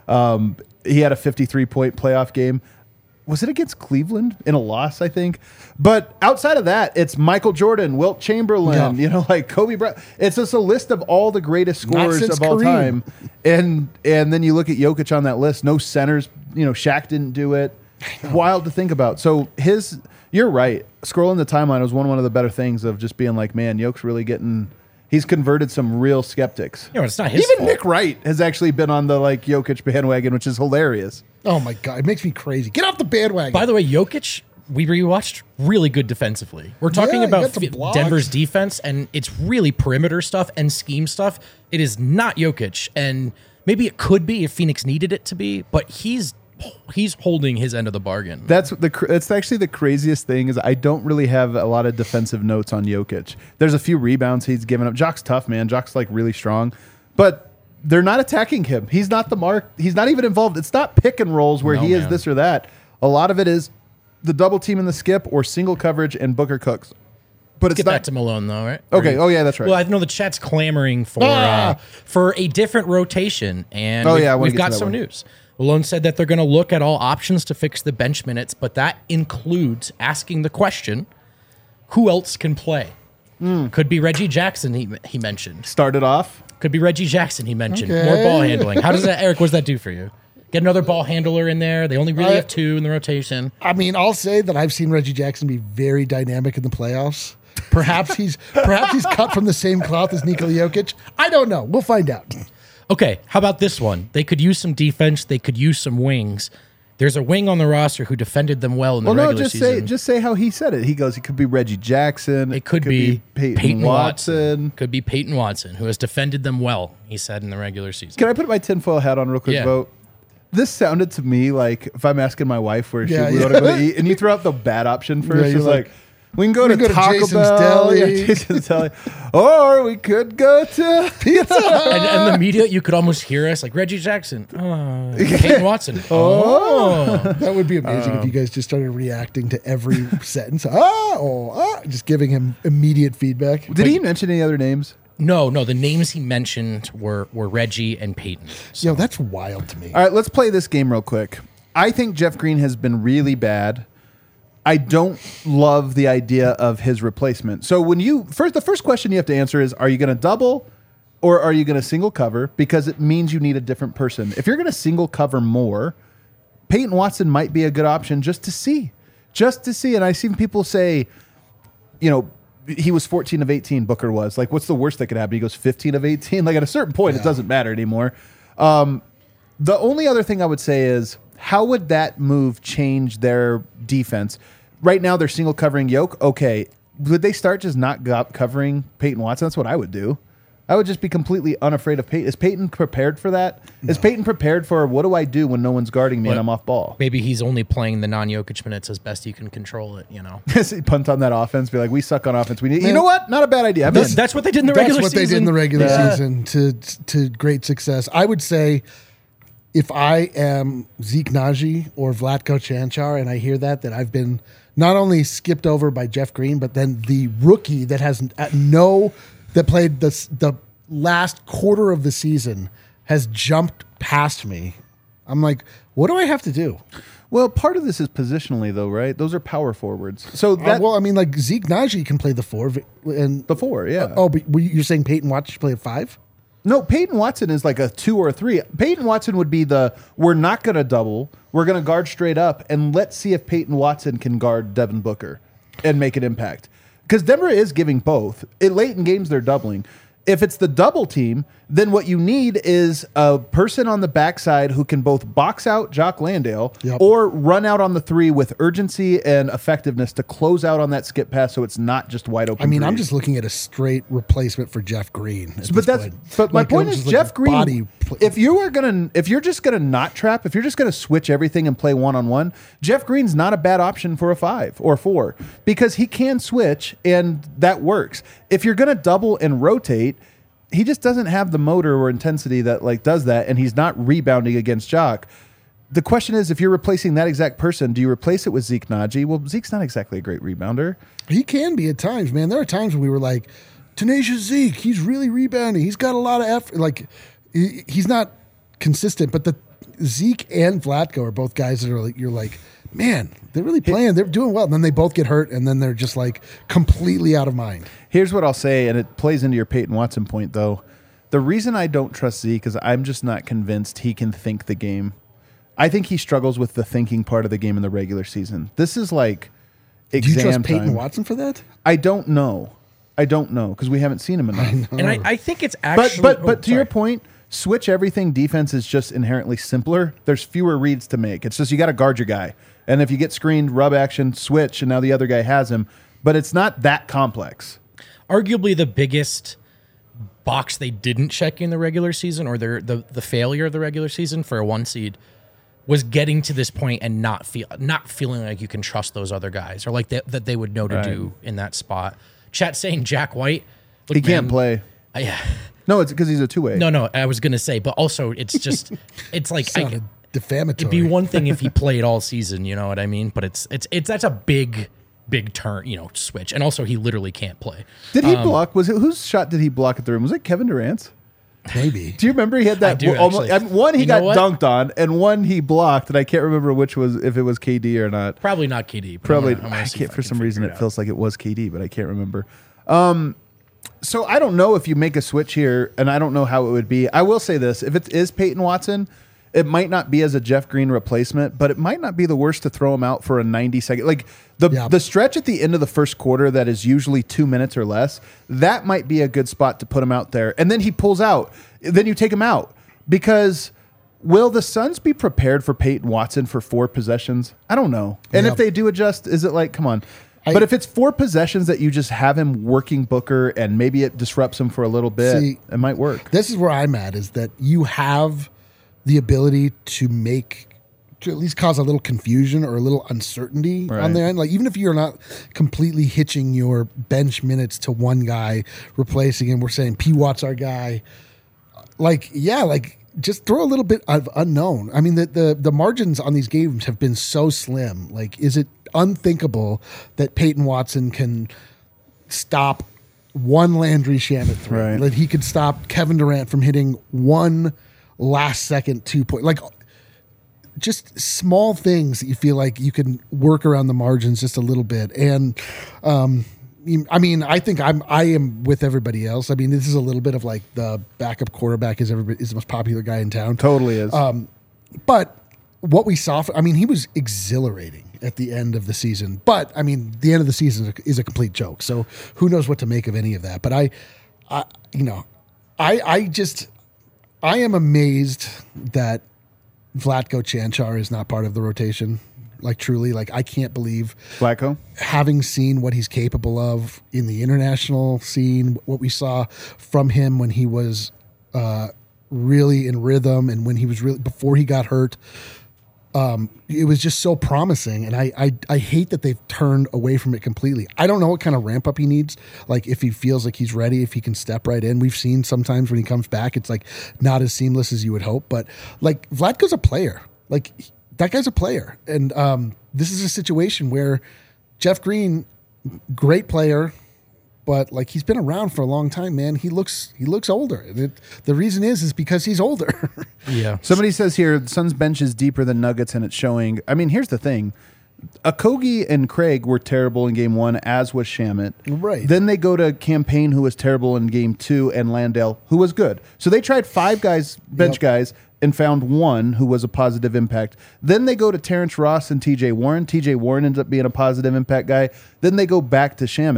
He had a 53-point playoff game. Was it against Cleveland in a loss, I think? But outside of that, it's Michael Jordan, Wilt Chamberlain, Yeah. like Kobe Bryant. It's just a list of all the greatest scorers since of all Kareem. time. And then you look at Jokic on that list. No centers. Shaq didn't do it. Wild to think about. So you're right. Scrolling the timeline was one of the better things of just being like, man, Jokic's really he's converted some real skeptics. It's not his Even fault. Nick Wright has actually been on the Jokic bandwagon, which is hilarious. Oh my god, it makes me crazy. Get off the bandwagon. By the way, Jokic, we rewatched, really good defensively. We're talking Yeah, he about got some blocks. Denver's defense, and it's really perimeter stuff and scheme stuff. It is not Jokic, and maybe it could be if Phoenix needed it to be, but he's holding his end of the bargain. That's actually the craziest thing is I don't really have a lot of defensive notes on Jokic. There's a few rebounds he's given up. Jock's tough, man. Jock's really strong, but they're not attacking him. He's not the mark. He's not even involved. It's not pick and rolls where No, he is man. this or that. A lot of it is the double team and the skip or single coverage and Booker cooks. But it's Get not. back to Malone, though, right? Okay. Oh yeah, that's right. Well, I know the chat's clamoring for a different rotation, and Oh, yeah, I wanna we've get to got that some one. news. Malone said that they're going to look at all options to fix the bench minutes, but that includes asking the question, who else can play? Could be Reggie Jackson, he mentioned. Started off. Could be Reggie Jackson, he mentioned. Okay. More ball handling. How does that, Eric, what does that do for you? Get another ball handler in there. They only really have two in the rotation. I mean, I'll say that I've seen Reggie Jackson be very dynamic in the playoffs. Perhaps he's cut from the same cloth as Nikola Jokic. I don't know. We'll find out. Okay, how about this one? They could use some defense. They could use some wings. There's a wing on the roster who defended them well in the regular season. Just say how he said it. He goes, it could be Reggie Jackson. It could be Peyton Watson. Could be Peyton Watson, who has defended them well, he said, in the regular season. Can I put my tinfoil hat on real quick, Yeah. Vote? This sounded to me like if I'm asking my wife where Yeah, we yeah. want to go to eat, and you throw out the bad option first. Yeah, you're it's like, like, we can go to go to Taco Jason's Bell, Deli. yeah, Jason's Deli, or we could go to Pizza. And the media, you could almost hear us like Reggie Jackson, Peyton Watson. That would be amazing if you guys just started reacting to every sentence. Just giving him immediate feedback. Did he mention any other names? No, the names he mentioned were Reggie and Peyton. Yo, that's wild to me. All right, let's play this game real quick. I think Jeff Green has been really bad. I don't love the idea of his replacement. So the first question you have to answer is, are you going to double or are you going to single cover? Because it means you need a different person. If you're going to single cover more, Peyton Watson might be a good option just to see. And I've seen people say, he was 14 of 18, Booker was. Like, what's the worst that could happen? He goes 15 of 18. Like, at a certain point, it doesn't matter anymore. The only other thing I would say is, how would that move change their defense? Right now, they're single covering Yoke. Okay. Would they start just not covering Peyton Watson? That's what I would do. I would just be completely unafraid of Peyton. Is Peyton prepared for that? No. Is Peyton prepared for, what do I do when no one's guarding me and I'm off ball? Maybe he's only playing the non-Jokic minutes as best you can control it, Punt on that offense, be like, we suck on offense. You know what? Not a bad idea. That's what they did in the regular season. That's what they did in the regular season to great success. I would say, if I am Zeke Naji or Vlatko Chanchar and I hear that I've been not only skipped over by Jeff Green, but then the rookie that that played the last quarter of the season has jumped past me. I'm like, what do I have to do? Well, part of this is positionally, though, right? Those are power forwards. So like Zeke Naji can play the 4 and the 4, yeah. But you're saying Peyton Watson should play at 5? No, Peyton Watson is like a 2 or a 3. Peyton Watson would be we're not going to double. We're going to guard straight up, and let's see if Peyton Watson can guard Devin Booker and make an impact. because Denver is giving both. Late in games, they're doubling. If it's the double team, then what you need is a person on the backside who can both box out Jock Landale or run out on the three with urgency and effectiveness to close out on that skip pass so it's not just wide open. I mean, threes. I'm just looking at a straight replacement for Jeff Green. But my point is Jeff Green. If you're just gonna not trap, if you're just gonna switch everything and play 1-on-1, Jeff Green's not a bad option for a 5 or 4 because he can switch and that works. If you're gonna double and rotate, he just doesn't have the motor or intensity that like does that, and he's not rebounding against Jock. The question is, if you're replacing that exact person, do you replace it with Zeke Naji? Well, Zeke's not exactly a great rebounder. He can be at times, man. There are times when we were like, tenacious Zeke, he's really rebounding. He's got a lot of effort. Like, he's not consistent, but the Zeke and Vlatko are both guys that are like, you're like, man, they're really playing. They're doing well. And then they both get hurt, and then they're just like completely out of mind. Here's what I'll say, and it plays into your Peyton Watson point, though. The reason I don't trust Zeke is I'm just not convinced he can think the game. I think he struggles with the thinking part of the game in the regular season. This is like exam Do you trust time. Peyton Watson for that? I don't know because we haven't seen him enough. And I think it's actually. But to your point, switch everything defense is just inherently simpler. There's fewer reads to make. It's just you got to guard your guy. And if you get screened, rub action, switch, and now the other guy has him. But it's not that complex. Arguably the biggest box they didn't check in the regular season, or the failure of the regular season for a 1 seed, was getting to this point and not feeling like you can trust those other guys, or like that they would know to do in that spot. Chat saying Jack White, look, He can't play. Yeah. No, it's because he's a two-way. No, I was gonna say, but also it's just it's like Sounded defamatory. it'd be one thing if he played all season, you know what I mean? But it's that's a big turn, switch. And also he literally can't play. Did he block? Whose shot did he block at the rim? Was it Kevin Durant's? Maybe. Do you remember he had that? I do, actually. One he You know got what? dunked on, and one he blocked, and I can't remember if it was KD or not. Probably not KD. But Probably. I'm gonna I see can't. if For can some reason, figure it feels like it was KD, but I can't remember. So I don't know if you make a switch here, and I don't know how it would be. I will say this: if it is Peyton Watson, it might not be as a Jeff Green replacement, but it might not be the worst to throw him out for a 90-second. Like the stretch at the end of the first quarter that is usually 2 minutes or less, that might be a good spot to put him out there. And then he pulls out. Then you take him out. Because will the Suns be prepared for Peyton Watson for 4 possessions? I don't know. And if they do adjust, is it like, come on. But if it's 4 possessions that you just have him working Booker and maybe it disrupts him for a little bit, it might work. This is where I'm at, is that you have the ability to at least cause a little confusion or a little uncertainty on their end. Like, even if you're not completely hitching your bench minutes to one guy, replacing him, we're saying P. Watt's our guy. Just throw a little bit of unknown. I mean, the margins on these games have been so slim. Like, is it unthinkable that Peyton Watson can stop one Landry Shamet three? Right. That he could stop Kevin Durant from hitting one last second 2-point. Like, just small things that you feel like you can work around the margins just a little bit. And I mean, I think I am with everybody else. I mean, this is a little bit of like the backup quarterback is the most popular guy in town. Totally is. But what we saw, he was exhilarating at the end of the season. But I mean, the end of the season is a complete joke. So who knows what to make of any of that? But I am amazed that Vlatko Cancar is not part of the rotation. Like, truly, like, I can't believe Vlatko, having seen what he's capable of in the international scene, what we saw from him when he was really in rhythm and when he was really before he got hurt. It was just so promising, and I hate that they've turned away from it completely. I don't know what kind of ramp up he needs. Like, if he feels like he's ready, if he can step right in. We've seen sometimes when he comes back, it's like not as seamless as you would hope. But like, Vlatko's a player. Like, that guy's a player, and this is a situation where Jeff Green, great player, but like, he's been around for a long time, man. He looks older. The reason is because he's older. Yeah. Somebody says here, the Suns bench is deeper than Nuggets, and it's showing. I mean, here's the thing. Okogie and Craig were terrible in game 1, as was Shamet. Right. Then they go to Campaign, who was terrible in game 2, and Landale, who was good. So they tried 5 guys, bench guys, and found one who was a positive impact. Then they go to Terrence Ross and TJ Warren. TJ Warren ends up being a positive impact guy. Then they go back to Shamet.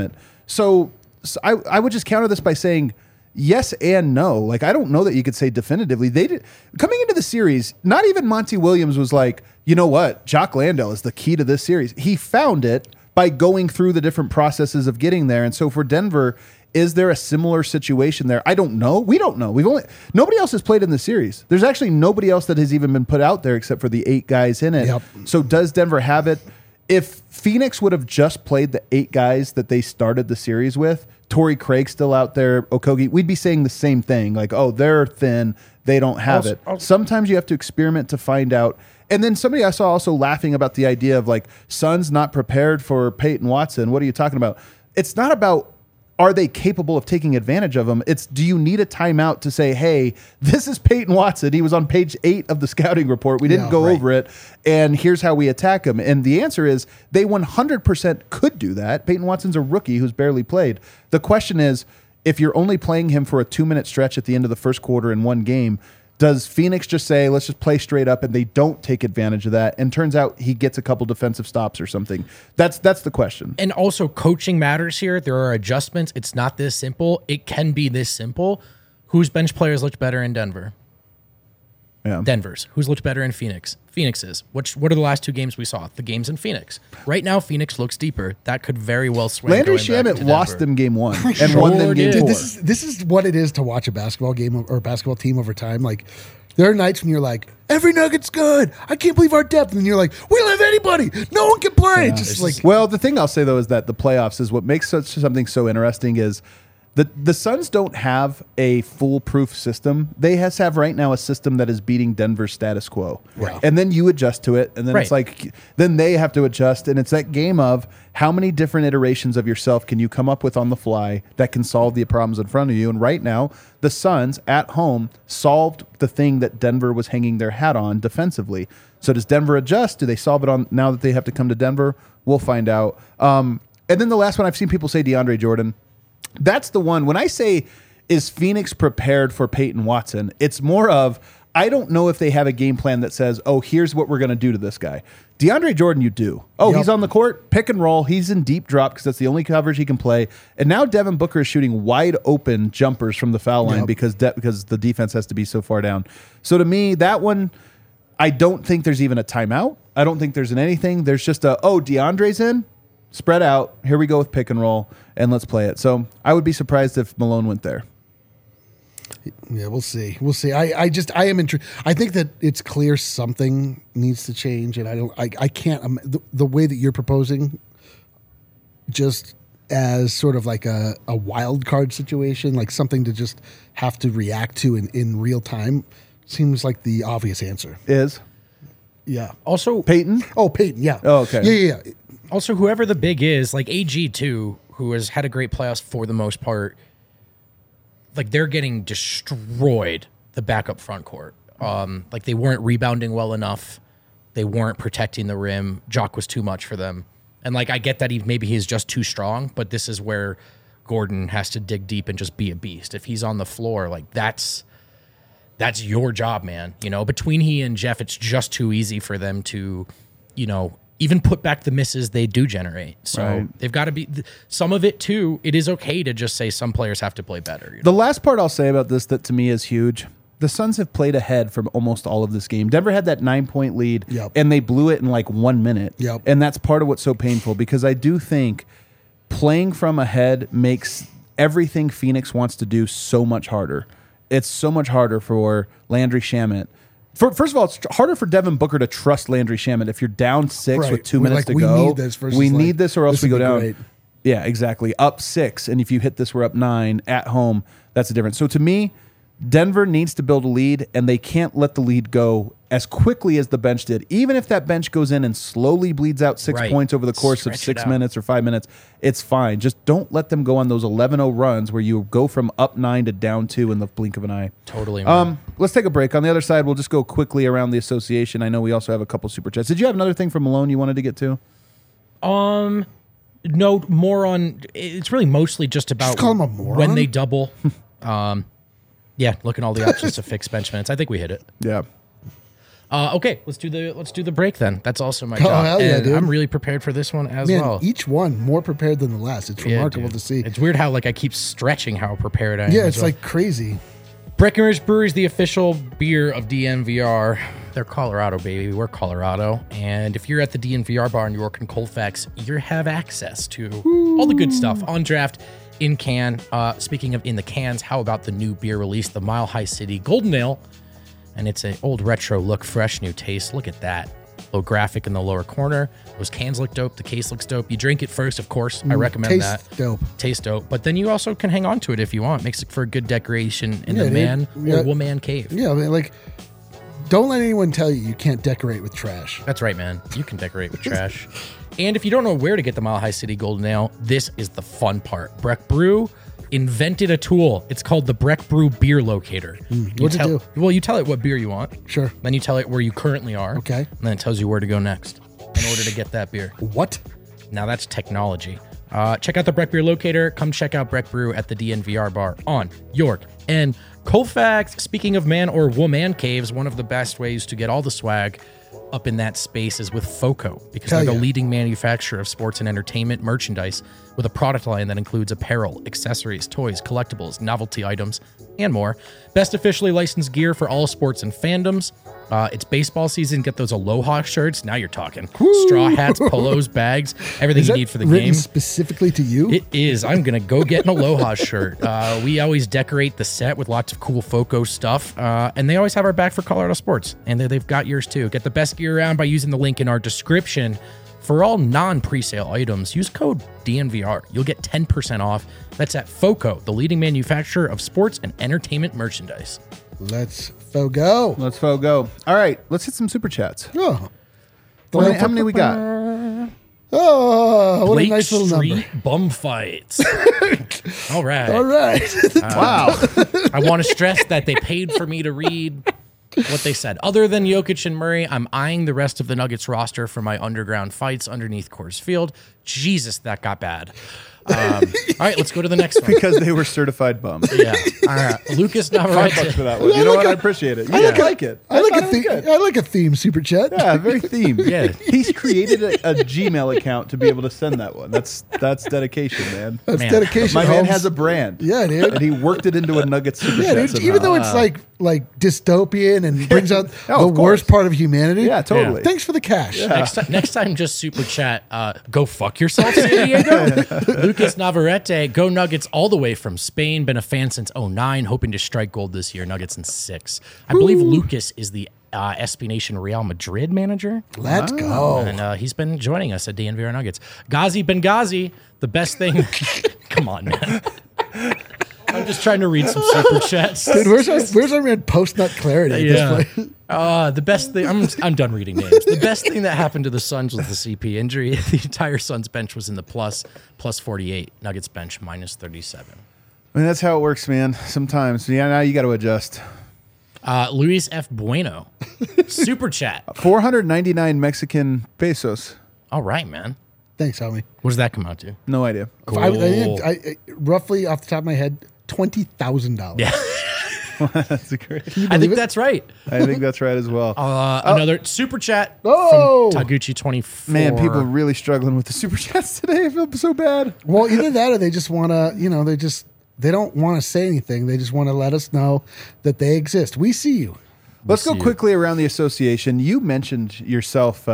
So I would just counter this by saying yes and no. Like, I don't know that you could say definitively. They did coming into the series, not even Monty Williams was like, you know what, Jock Landale is the key to this series. He found it by going through the different processes of getting there. And so for Denver, is there a similar situation there? I don't know. We don't know. Nobody else has played in the series. There's actually nobody else that has even been put out there except for the 8 guys in it. Yep. So does Denver have it? If Phoenix would have just played the 8 guys that they started the series with, Torrey Craig still out there, Okogie, we'd be saying the same thing. Like, oh, they're thin. They don't have it. Sometimes you have to experiment to find out. And then somebody I saw also laughing about the idea of like, Suns not prepared for Peyton Watson. What are you talking about? It's not about are they capable of taking advantage of him? It's do you need a timeout to say, hey, this is Peyton Watson. He was on page 8 of the scouting report. We didn't go over it. And here's how we attack him. And the answer is they 100% could do that. Peyton Watson's a rookie who's barely played. The question is, if you're only playing him for a 2-minute stretch at the end of the first quarter in one game, does Phoenix just say, let's just play straight up, and they don't take advantage of that? And turns out he gets a couple defensive stops or something. That's the question. And also coaching matters here. There are adjustments. It's not this simple. It can be this simple. Whose bench players looked better in Denver? Yeah. Denver's. Who's looked better in Phoenix? Phoenix's. What are the last 2 games we saw? The games in Phoenix. Right now, Phoenix looks deeper. That could very well swing. Landry Shamet lost them game 1 and won them game 4. This is what it is to watch a basketball game or a basketball team over time. Like, there are nights when you're like, every nugget's good. I can't believe our depth. And you're like, we don't have anybody. No one can play. Well, the thing I'll say, though, is that the playoffs is what makes something so interesting is the Suns don't have a foolproof system. They have right now a system that is beating Denver's status quo. Right. And then you adjust to it. And then it's like, then they have to adjust. And it's that game of how many different iterations of yourself can you come up with on the fly that can solve the problems in front of you. And right now, the Suns at home solved the thing that Denver was hanging their hat on defensively. So does Denver adjust? Do they solve it on now that they have to come to Denver? We'll find out. And then the last one, I've seen people say DeAndre Jordan. That's the one. When I say, is Phoenix prepared for Peyton Watson? It's more of, I don't know if they have a game plan that says, oh, here's what we're going to do to this guy. DeAndre Jordan, you do. Oh, he's on the court, pick and roll. He's in deep drop because that's the only coverage he can play. And now Devin Booker is shooting wide open jumpers from the foul line because the defense has to be so far down. So to me, that one, I don't think there's even a timeout. I don't think there's anything. There's just DeAndre's in. Spread out. Here we go with pick and roll, and let's play it. So I would be surprised if Malone went there. Yeah, we'll see. We'll see. I am intrigued. I think that it's clear something needs to change, and I can't. The way that you're proposing, just as sort of like a wild card situation, like something to just have to react to in real time, seems like the obvious answer. Is yeah. Also, Peyton. Oh, Peyton. Yeah. Oh, okay. Yeah. Also, whoever the big is, like AG too, who has had a great playoffs for the most part, like they're getting destroyed, the backup front court. Like they weren't rebounding well enough. They weren't protecting the rim. Jock was too much for them. And like I get that maybe he's just too strong, but this is where Gordon has to dig deep and just be a beast. If he's on the floor, like that's your job, man. You know, between he and Jeff, it's just too easy for them to, you know, even put back the misses they do generate. So they've got to be some of it too. It is okay to just say some players have to play better. You know? The last part I'll say about this that to me is huge. The Suns have played ahead from almost all of this game. Denver had that 9-point lead, and they blew it in like 1 minute. And that's part of what's so painful because I do think playing from ahead makes everything Phoenix wants to do so much harder. It's so much harder for Landry Shamet. First of all, it's harder for Devin Booker to trust Landry Shamet. If you're down 6 with 2 minutes to go, we need this or else we go down. Great. Yeah, exactly. Up 6. And if you hit this, we're up 9 at home. That's the difference. So to me, Denver needs to build a lead, and they can't let the lead go as quickly as the bench did. Even if that bench goes in and slowly bleeds out 6 points over the course of 6 minutes or 5 minutes, it's fine. Just don't let them go on those 11-0 runs where you go from up 9 to down 2 in the blink of an eye. Totally. Man. Let's take a break. On the other side, we'll just go quickly around the association. I know we also have a couple super chats. Did you have another thing from Malone you wanted to get to? No, more on. It's really mostly just about just call him a moron? When they double. Yeah, look at all the options to fix bench minutes. I think we hit it. Yeah. Okay, let's do the break then. That's also my Oh, job. hell yeah, And dude. I'm really prepared for this one as Man, well. each one more prepared than the last. It's Yeah, remarkable dude. to see. It's weird how like I keep stretching how prepared I am. Yeah, as it's well. like crazy. Breckenridge Brewery is the official beer of DNVR. They're Colorado, baby. We're Colorado. And if you're at the DNVR bar in York and Colfax, you have access to all the good stuff on draft in can. Speaking of in the cans, how about the new beer release, the Mile High City Golden Ale? And it's an old retro look, fresh new taste. Look at that. Little graphic in the lower corner. Those cans look dope. The case looks dope. You drink it first, of course. I recommend Tastes that. dope. Taste dope. But then you also can hang on to it if you want. Makes it for a good decoration in Yeah, the dude. man Yeah. or woman cave. Yeah, I mean, like, don't let anyone tell you can't decorate with trash. That's right, man. You can decorate with trash. And if you don't know where to get the Mile High City Golden Ale, this is the fun part. Breck Brew invented a tool. It's called the Breck Brew Beer Locator. What's it do? Well, you tell it what beer you want. Sure. Then you tell it where you currently are. Okay. And then it tells you where to go next in order to get that beer. What? Now that's technology. Check out the Breck Beer Locator. Come check out Breck Brew at the DNVR bar on York and Colfax. Speaking of man or woman caves, one of the best ways to get all the swag up in that space is with FOCO, because Hell they're the yeah. leading manufacturer of sports and entertainment merchandise with a product line that includes apparel, accessories, toys, collectibles, novelty items, and more. Best officially licensed gear for all sports and fandoms. It's baseball season. Get those Aloha shirts. Now you're talking. Straw hats, polos, bags, everything Is you that need for the written game. specifically to you? It is. I'm going to go get an Aloha shirt. We always decorate the set with lots of cool FOCO stuff. And they always have our back for Colorado sports. And they've got yours too. Get the best gear around by using the link in our description. For all non-presale items, use code DNVR. You'll get 10% off. That's at FOCO, the leading manufacturer of sports and entertainment merchandise. Let's go. Let's go. All right, let's hit some super chats. Oh. How many we got? Oh, what Blake a nice little Street number. bum fights. All right. All right. Wow. I want to stress that they paid for me to read what they said. Other than Jokic and Murray, I'm eyeing the rest of the Nuggets roster for my underground fights underneath Coors Field. Jesus, that got bad. All right, let's go to the next one. Because they were certified bums. Yeah. All right. Lucas $5 Navarrete. for that one. You know what? I appreciate it. You like it. I like thought a it was theme. good. I like a theme super chat. Yeah, very themed. Yeah. He's created a Gmail account to be able to send that one. That's dedication, man. That's Man. dedication. My man Holmes. has a brand. Yeah, dude. And he worked it into a Nugget super Yeah, chat dude. somehow. Even though it's like dystopian and brings out Oh, the of worst course. part of humanity. Yeah, totally. Thanks for the cash. Next time, just super chat. Go fuck yourself, San Diego. Lucas Navarrete. Go Nuggets all the way from Spain. Been a fan since 09. Hoping to strike gold this year. Nuggets in 6. I believe Lucas is the SB Nation Real Madrid manager. Let's go. And he's been joining us at DNVR Nuggets. Ghazi Benghazi, the best thing. Come on, man. I'm just trying to read some super chats. Dude, where's our man post nut clarity at this point? The best thing. I'm done reading names. The best thing that happened to the Suns was the CP injury. The entire Suns bench was in the plus 48. Nuggets bench minus 37. I mean, that's how it works, man. Sometimes. Yeah, now you got to adjust. Luis F. Bueno, super chat. 499 Mexican pesos. All right, man. Thanks, homie. What does that come out to? No idea. Cool. I roughly off the top of my head, $20,000. Yeah, That's great. I think that's right. I think that's right as well. Another super chat Oh! from Taguchi24. Man, people are really struggling with the super chats today. I feel so bad. Well, either that or they just want to, they don't want to say anything. They just want to let us know that they exist. We see you. Let's go see you. quickly around the association. You mentioned yourself,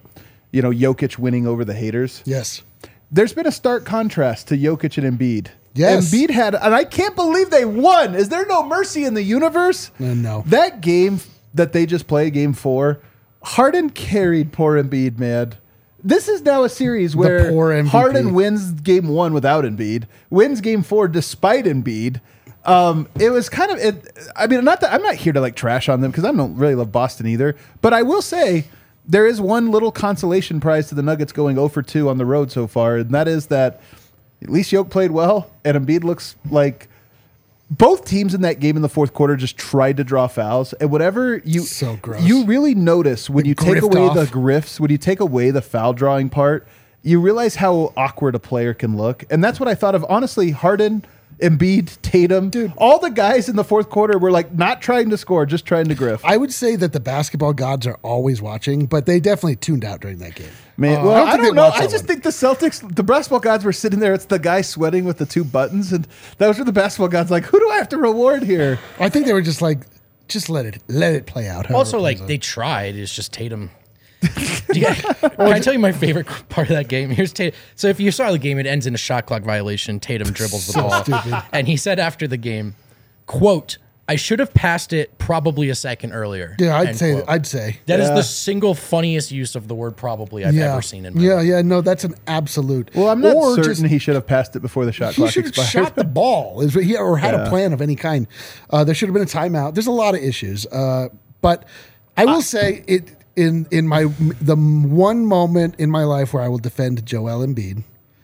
Jokic winning over the haters. Yes. There's been a stark contrast to Jokic and Embiid. Yes. Embiid had, and I can't believe they won. Is there no mercy in the universe? No. That game that they just played, game 4, Harden carried poor Embiid, man. This is now a series where poor MVP. Harden wins game 1 without Embiid, wins game 4 despite Embiid. It was kind of, I mean, not that I'm not here to like trash on them because I don't really love Boston either, but I will say there is one little consolation prize to the Nuggets going 0 for 2 on the road so far, and that is that at least Jokic played well, and Embiid looks like both teams in that game in the fourth quarter just tried to draw fouls, and whatever So gross. you really notice when you take grift away the off. grifts, when you take away the foul drawing part, you realize how awkward a player can look, and that's what I thought of. Honestly, Harden Embiid, Tatum, Dude. all the guys in the fourth quarter were like not trying to score, just trying to grift. I would say that the basketball gods are always watching, but they definitely tuned out during that game. Man, I well, don't I think don't they know. watched I that just one. think the Celtics, the basketball gods were sitting there. It's the guy sweating with the 2 buttons, and those were the basketball gods. Like, who do I have to reward here? I think they were just like, just let it play out. however Also, it plays like out. they tried. It's just Tatum. Yeah. Can I tell you my favorite part of that game? Here's Tatum. So if you saw the game, it ends in a shot clock violation. Tatum dribbles the ball, stupid. and he said after the game, "quote I should have passed it probably a second earlier." Yeah, End quote. I'd say. That is Yeah. the single funniest use of the word "probably" I've Yeah. ever seen in my Yeah, life. yeah, no, that's an absolute. Well, I'm not Or certain just- he should have passed it before the shot He clock should have expired. shot the ball, or had Yeah. a plan of any kind. There should have been a timeout. There's a lot of issues, but I will say it in the one moment in my life where I will defend Joel Embiid.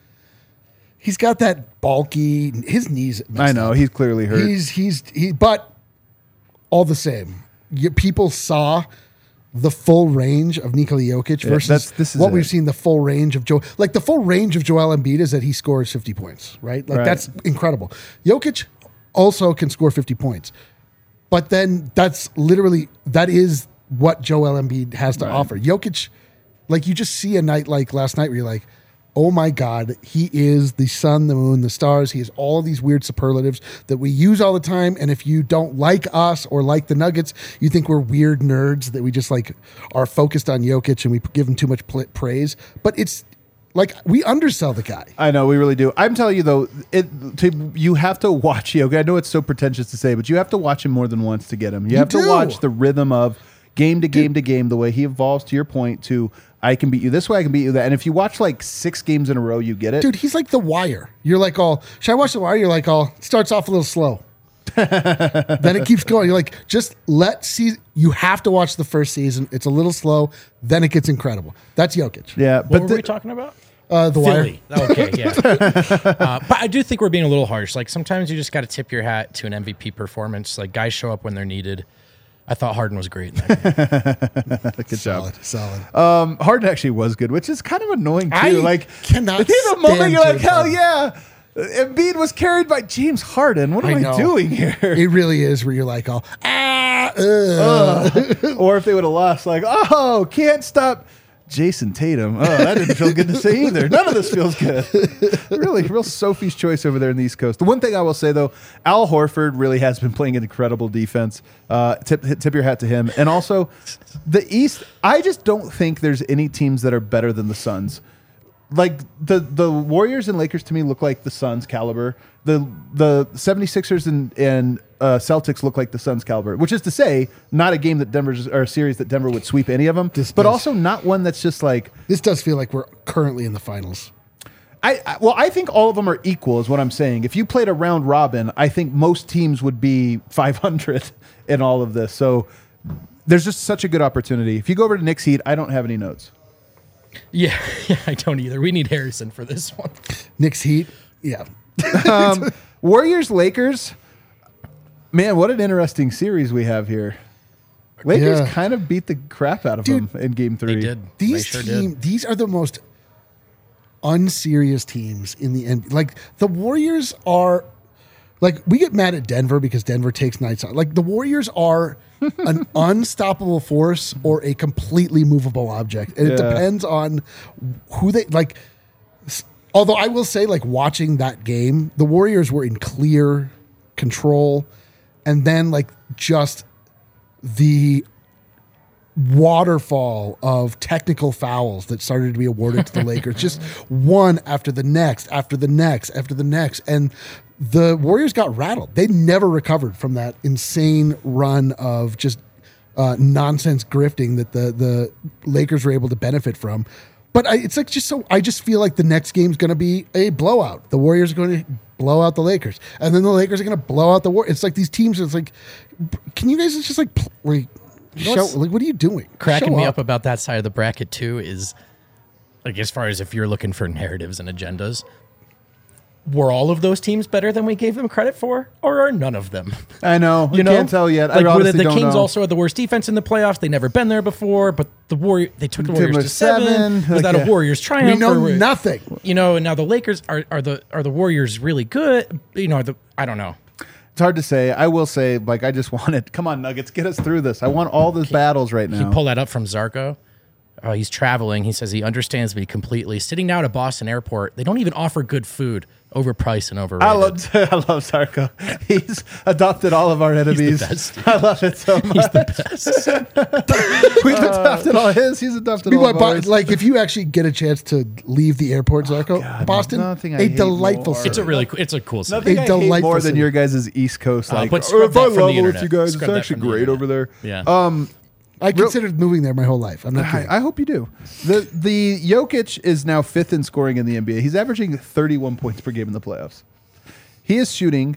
He's got that bulky. His knees. I messed know up. he's clearly hurt. But all the same, people saw the full range of Nikola Jokic versus this is what it. we've seen. The full range of the full range of Joel Embiid is that he scores 50 points, right? Like Right. that's incredible. Jokic also can score 50 points, but then that is what Joel Embiid has to offer. Jokic, like you just see a night like last night where you're like, oh my God, he is the sun, the moon, the stars. He has all of these weird superlatives that we use all the time. And if you don't like us or like the Nuggets, you think we're weird nerds that we just like are focused on Jokic and we give him too much praise. But it's like we undersell the guy. I know we really do. I'm telling you though, you have to watch Jokic. I know it's so pretentious to say, but you have to watch him more than once to get him. You have to do. watch the rhythm of game to game to game, the way he evolves. To your point, to I can beat you this way, I can beat you that. And if you watch like 6 games in a row, you get it. Dude, he's like The Wire. You're like, should I watch The Wire? You're like, it starts off a little slow. Then it keeps going. You're like, you have to watch the first season. It's a little slow. Then it gets incredible. That's Jokic. Yeah, What but were we talking about? The Wire. Philly. Okay, yeah. But I do think we're being a little harsh. Like sometimes you just got to tip your hat to an MVP performance. Like guys show up when they're needed. I thought Harden was great in that game. good job. Solid. Harden actually was good, which is kind of annoying too. I like cannot there's a moment stand you're like, James hell Harden. yeah. Embiid was carried by James Harden. What am I know. doing here? It really is where you're like, Or if they would have lost, like, can't stop Jason Tatum. Oh, that didn't feel good to say either. None of this feels good. Really, real Sophie's choice over there in the East Coast. The one thing I will say, though, Al Horford really has been playing an incredible defense. Tip your hat to him. And also, the East, I just don't think there's any teams that are better than the Suns. Like, the Warriors and Lakers, to me, look like the Suns caliber. The 76ers and Celtics look like the Suns caliber, which is to say, not a game that or a series that Denver would sweep any of them, but also not one that's just like. this does feel like we're currently in the finals. I think all of them are equal, is what I'm saying. If you played a round robin, I think most teams would be 500 in all of this. So there's just such a good opportunity. If you go over to Knicks Heat, I don't have any notes. Yeah, I don't either. We need Harrison for this one. Knicks Heat. Yeah. Warriors Lakers. Man, what an interesting series we have here. Lakers Yeah. kind of beat the crap out of Dude, them in Game 3. They did. These They sure did. these are the most unserious teams in the NBA. Like the Warriors are, like we get mad at Denver because Denver takes nights out. Like the Warriors are an unstoppable force or a completely movable object, and it Yeah. depends on who they like. Although I will say, like watching that game, the Warriors were in clear control, and then like just the waterfall of technical fouls that started to be awarded to the Lakers, just one after the next, after the next, after the next. And the Warriors got rattled. They never recovered from that insane run of just nonsense grifting that the Lakers were able to benefit from. But it's like I just feel like the next game's going to be a blowout. The Warriors are going to blow out the Lakers, and then the Lakers are going to blow out the Warriors. It's like these teams. It's like, can you guys just like show? Like, what are you doing? Cracking Show me up about that side of the bracket too is like as far as if you're looking for narratives and agendas. were all of those teams better than we gave them credit for, or are none of them? I know. You know, Can't tell yet. Like, I were honestly the don't Kings know. also had the worst defense in the playoffs? They never been there before, but they took the Warriors to 7. Was that a Warriors triumph? We know or- nothing. You know, and now the Lakers are the Warriors really good? You know, I don't know. It's hard to say. I will say, like, I just want it. Come on, Nuggets, get us through this. I want all those battles right now. He pulled that up from Zarko. He's traveling. He says he understands me completely. Sitting down at Boston Airport, they don't even offer good food. Overpriced and overrated. I love Zarko. He's adopted all of our enemies. best. I love it so much. He's the best. We've adopted all his. He's adopted all Meanwhile, of ours. like if you actually get a chance to leave the airport, Zarko, Boston, nothing I a hate delightful more. city. It's a cool city. Nothing a I hate delightful more than city. your guys' East Coast. Like, but scrub if that I from the level with internet. you guys, Scrub it's that actually from the great internet. over there. Yeah. I considered moving there my whole life. I'm not kidding. I hope you do. The Jokic is now 5th in scoring in the NBA. He's averaging 31 points per game in the playoffs. He is shooting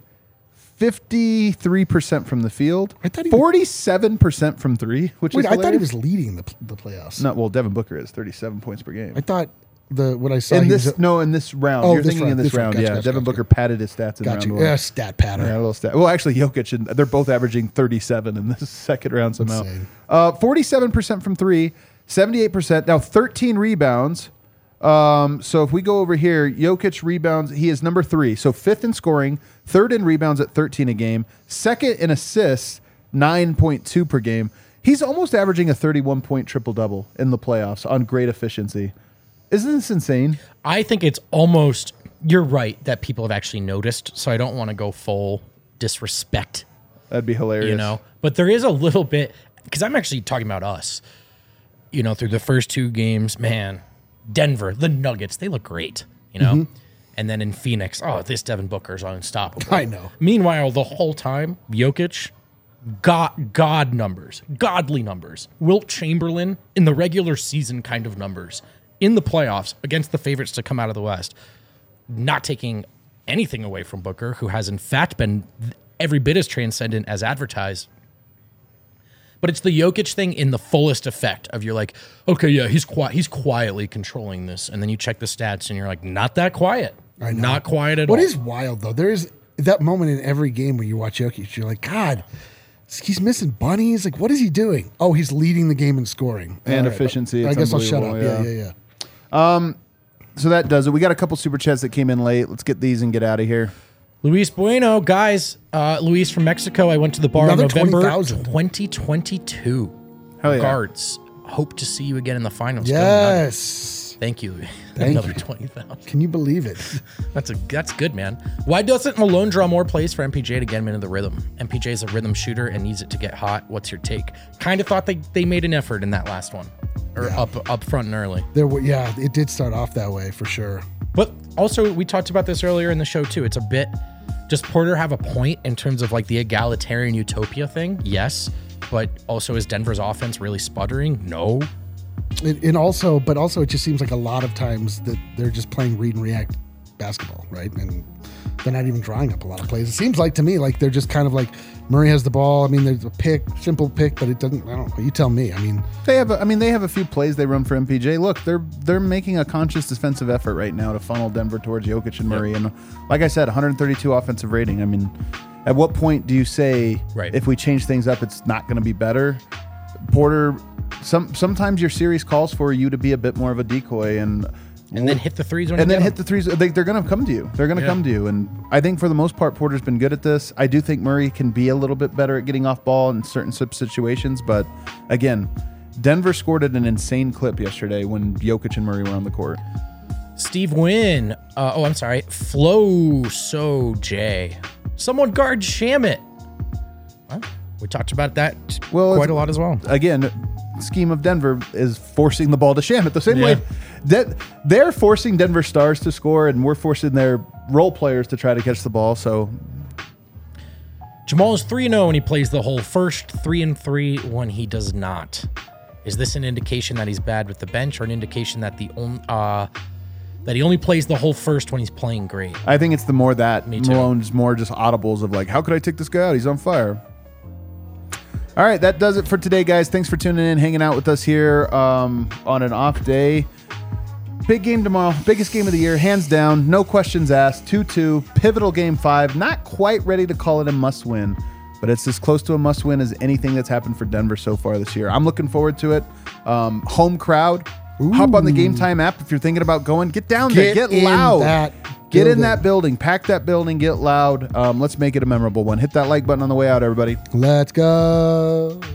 53% from the field, I thought he 47% from three, which Wait, is I thought he hilarious. was leading the playoffs. No, well, Devin Booker is 37 points per game. I thought what I saw In he this was, in this round. Oh, You're this thinking round, in this this round. round. Gotcha, Yeah, gotcha, Devin gotcha. Booker padded his stats in got round you. one. Yeah, stat pattern. Yeah, a little stat. Well, actually, Jokic, and they're both averaging 37 in this second round somehow. Insane. 47% from three, 78%. Now, 13 rebounds. So if we go over here, Jokic rebounds, he is number 3. So 5th in scoring, 3rd in rebounds at 13 a game, 2nd in assists, 9.2 per game. He's almost averaging a 31-point triple-double in the playoffs on great efficiency. Isn't this insane? I think it's almost, you're right, that people have actually noticed. So I don't want to go full disrespect, That'd be hilarious. you know, but there is a little bit, because I'm actually talking about us, you know, through the first 2 games, man, Denver, the Nuggets, they look great, you know, Mm-hmm. and then in Phoenix, oh, this Devin Booker's unstoppable. I know. Meanwhile, the whole time, Jokic, God numbers, godly numbers. Wilt Chamberlain in the regular season kind of numbers. In the playoffs against the favorites to come out of the West, not taking anything away from Booker, who has in fact been every bit as transcendent as advertised. But it's the Jokic thing in the fullest effect of you're like, okay, yeah, he's quietly controlling this. And then you check the stats and you're like, not that quiet. I know. Not quiet at all. What is wild though? There is that moment in every game where you watch Jokic, you're like, God, he's missing bunnies. Like, what is he doing? Oh, he's leading the game in scoring And All right, efficiency. I It's guess I'll shut up. unbelievable, Yeah. So that does it. We got a couple super chats that came in late. Let's get these and get out of here. Luis Bueno, guys. Luis from Mexico. I went to the bar Another in November 20,000. 2022. Hell yeah. Regards. Hope to see you again in the finals. Go Nuggets. Yes. Thank you. Thank Another you. 20,000. Can you believe it? That's good, man. Why doesn't Malone draw more plays for MPJ to get him into the rhythm? MPJ is a rhythm shooter and needs it to get hot. What's your take? Kind of thought they made an effort in that last one, or up front and early. It did start off that way for sure. But also, we talked about this earlier in the show too. It's a bit. Does Porter have a point in terms of like the egalitarian utopia thing? Yes, but also is Denver's offense really sputtering? No. And also it just seems like a lot of times that they're just playing read and react basketball, right? And they're not even drawing up a lot of plays. It seems like to me like they're just kind of like Murray has the ball. I mean, there's a simple pick, but it doesn't. I don't know. You tell me. I mean, They have a few plays they run for MPJ. Look, they're making a conscious defensive effort right now to funnel Denver towards Jokic and Murray. And like I said, 132 offensive rating. I mean, at what point do you say if we change things up, it's not going to be better? Porter, sometimes your series calls for you to be a bit more of a decoy and then hit the threes when and you then get hit the threes. They're going to come to you. They're going to come to you. And I think for the most part, Porter's been good at this. I do think Murray can be a little bit better at getting off ball in certain situations. But again, Denver scored at an insane clip yesterday when Jokic and Murray were on the court. Steve Wynn. I'm sorry. Flo So J. Someone guard Shamit. Well, we talked about that quite a lot as well. Again, scheme of Denver is forcing the ball to Shamet the same way that they're forcing Denver Stars to score, and we're forcing their role players to try to catch the ball. So Jamal is 3-0 when he plays the whole first, 3-3 when he does not. Is this an indication that he's bad with the bench, or an indication that that he only plays the whole first when he's playing great? I think it's the more that Me too. Malone's more just audibles of like, how could I take this guy out? He's on fire. All right, that does it for today, guys. Thanks for tuning in, hanging out with us here on an off day. big game tomorrow. Biggest game of the year, hands down. No questions asked. 2-2. Pivotal game 5. Not quite ready to call it a must-win, but it's as close to a must-win as anything that's happened for Denver so far this year. I'm looking forward to it. Home crowd. Hop on the Game Time app if you're thinking about going. Get down there. Get loud. Get in that building. Pack that building. Get loud. Let's make it a memorable one. Hit that like button on the way out, everybody. Let's go.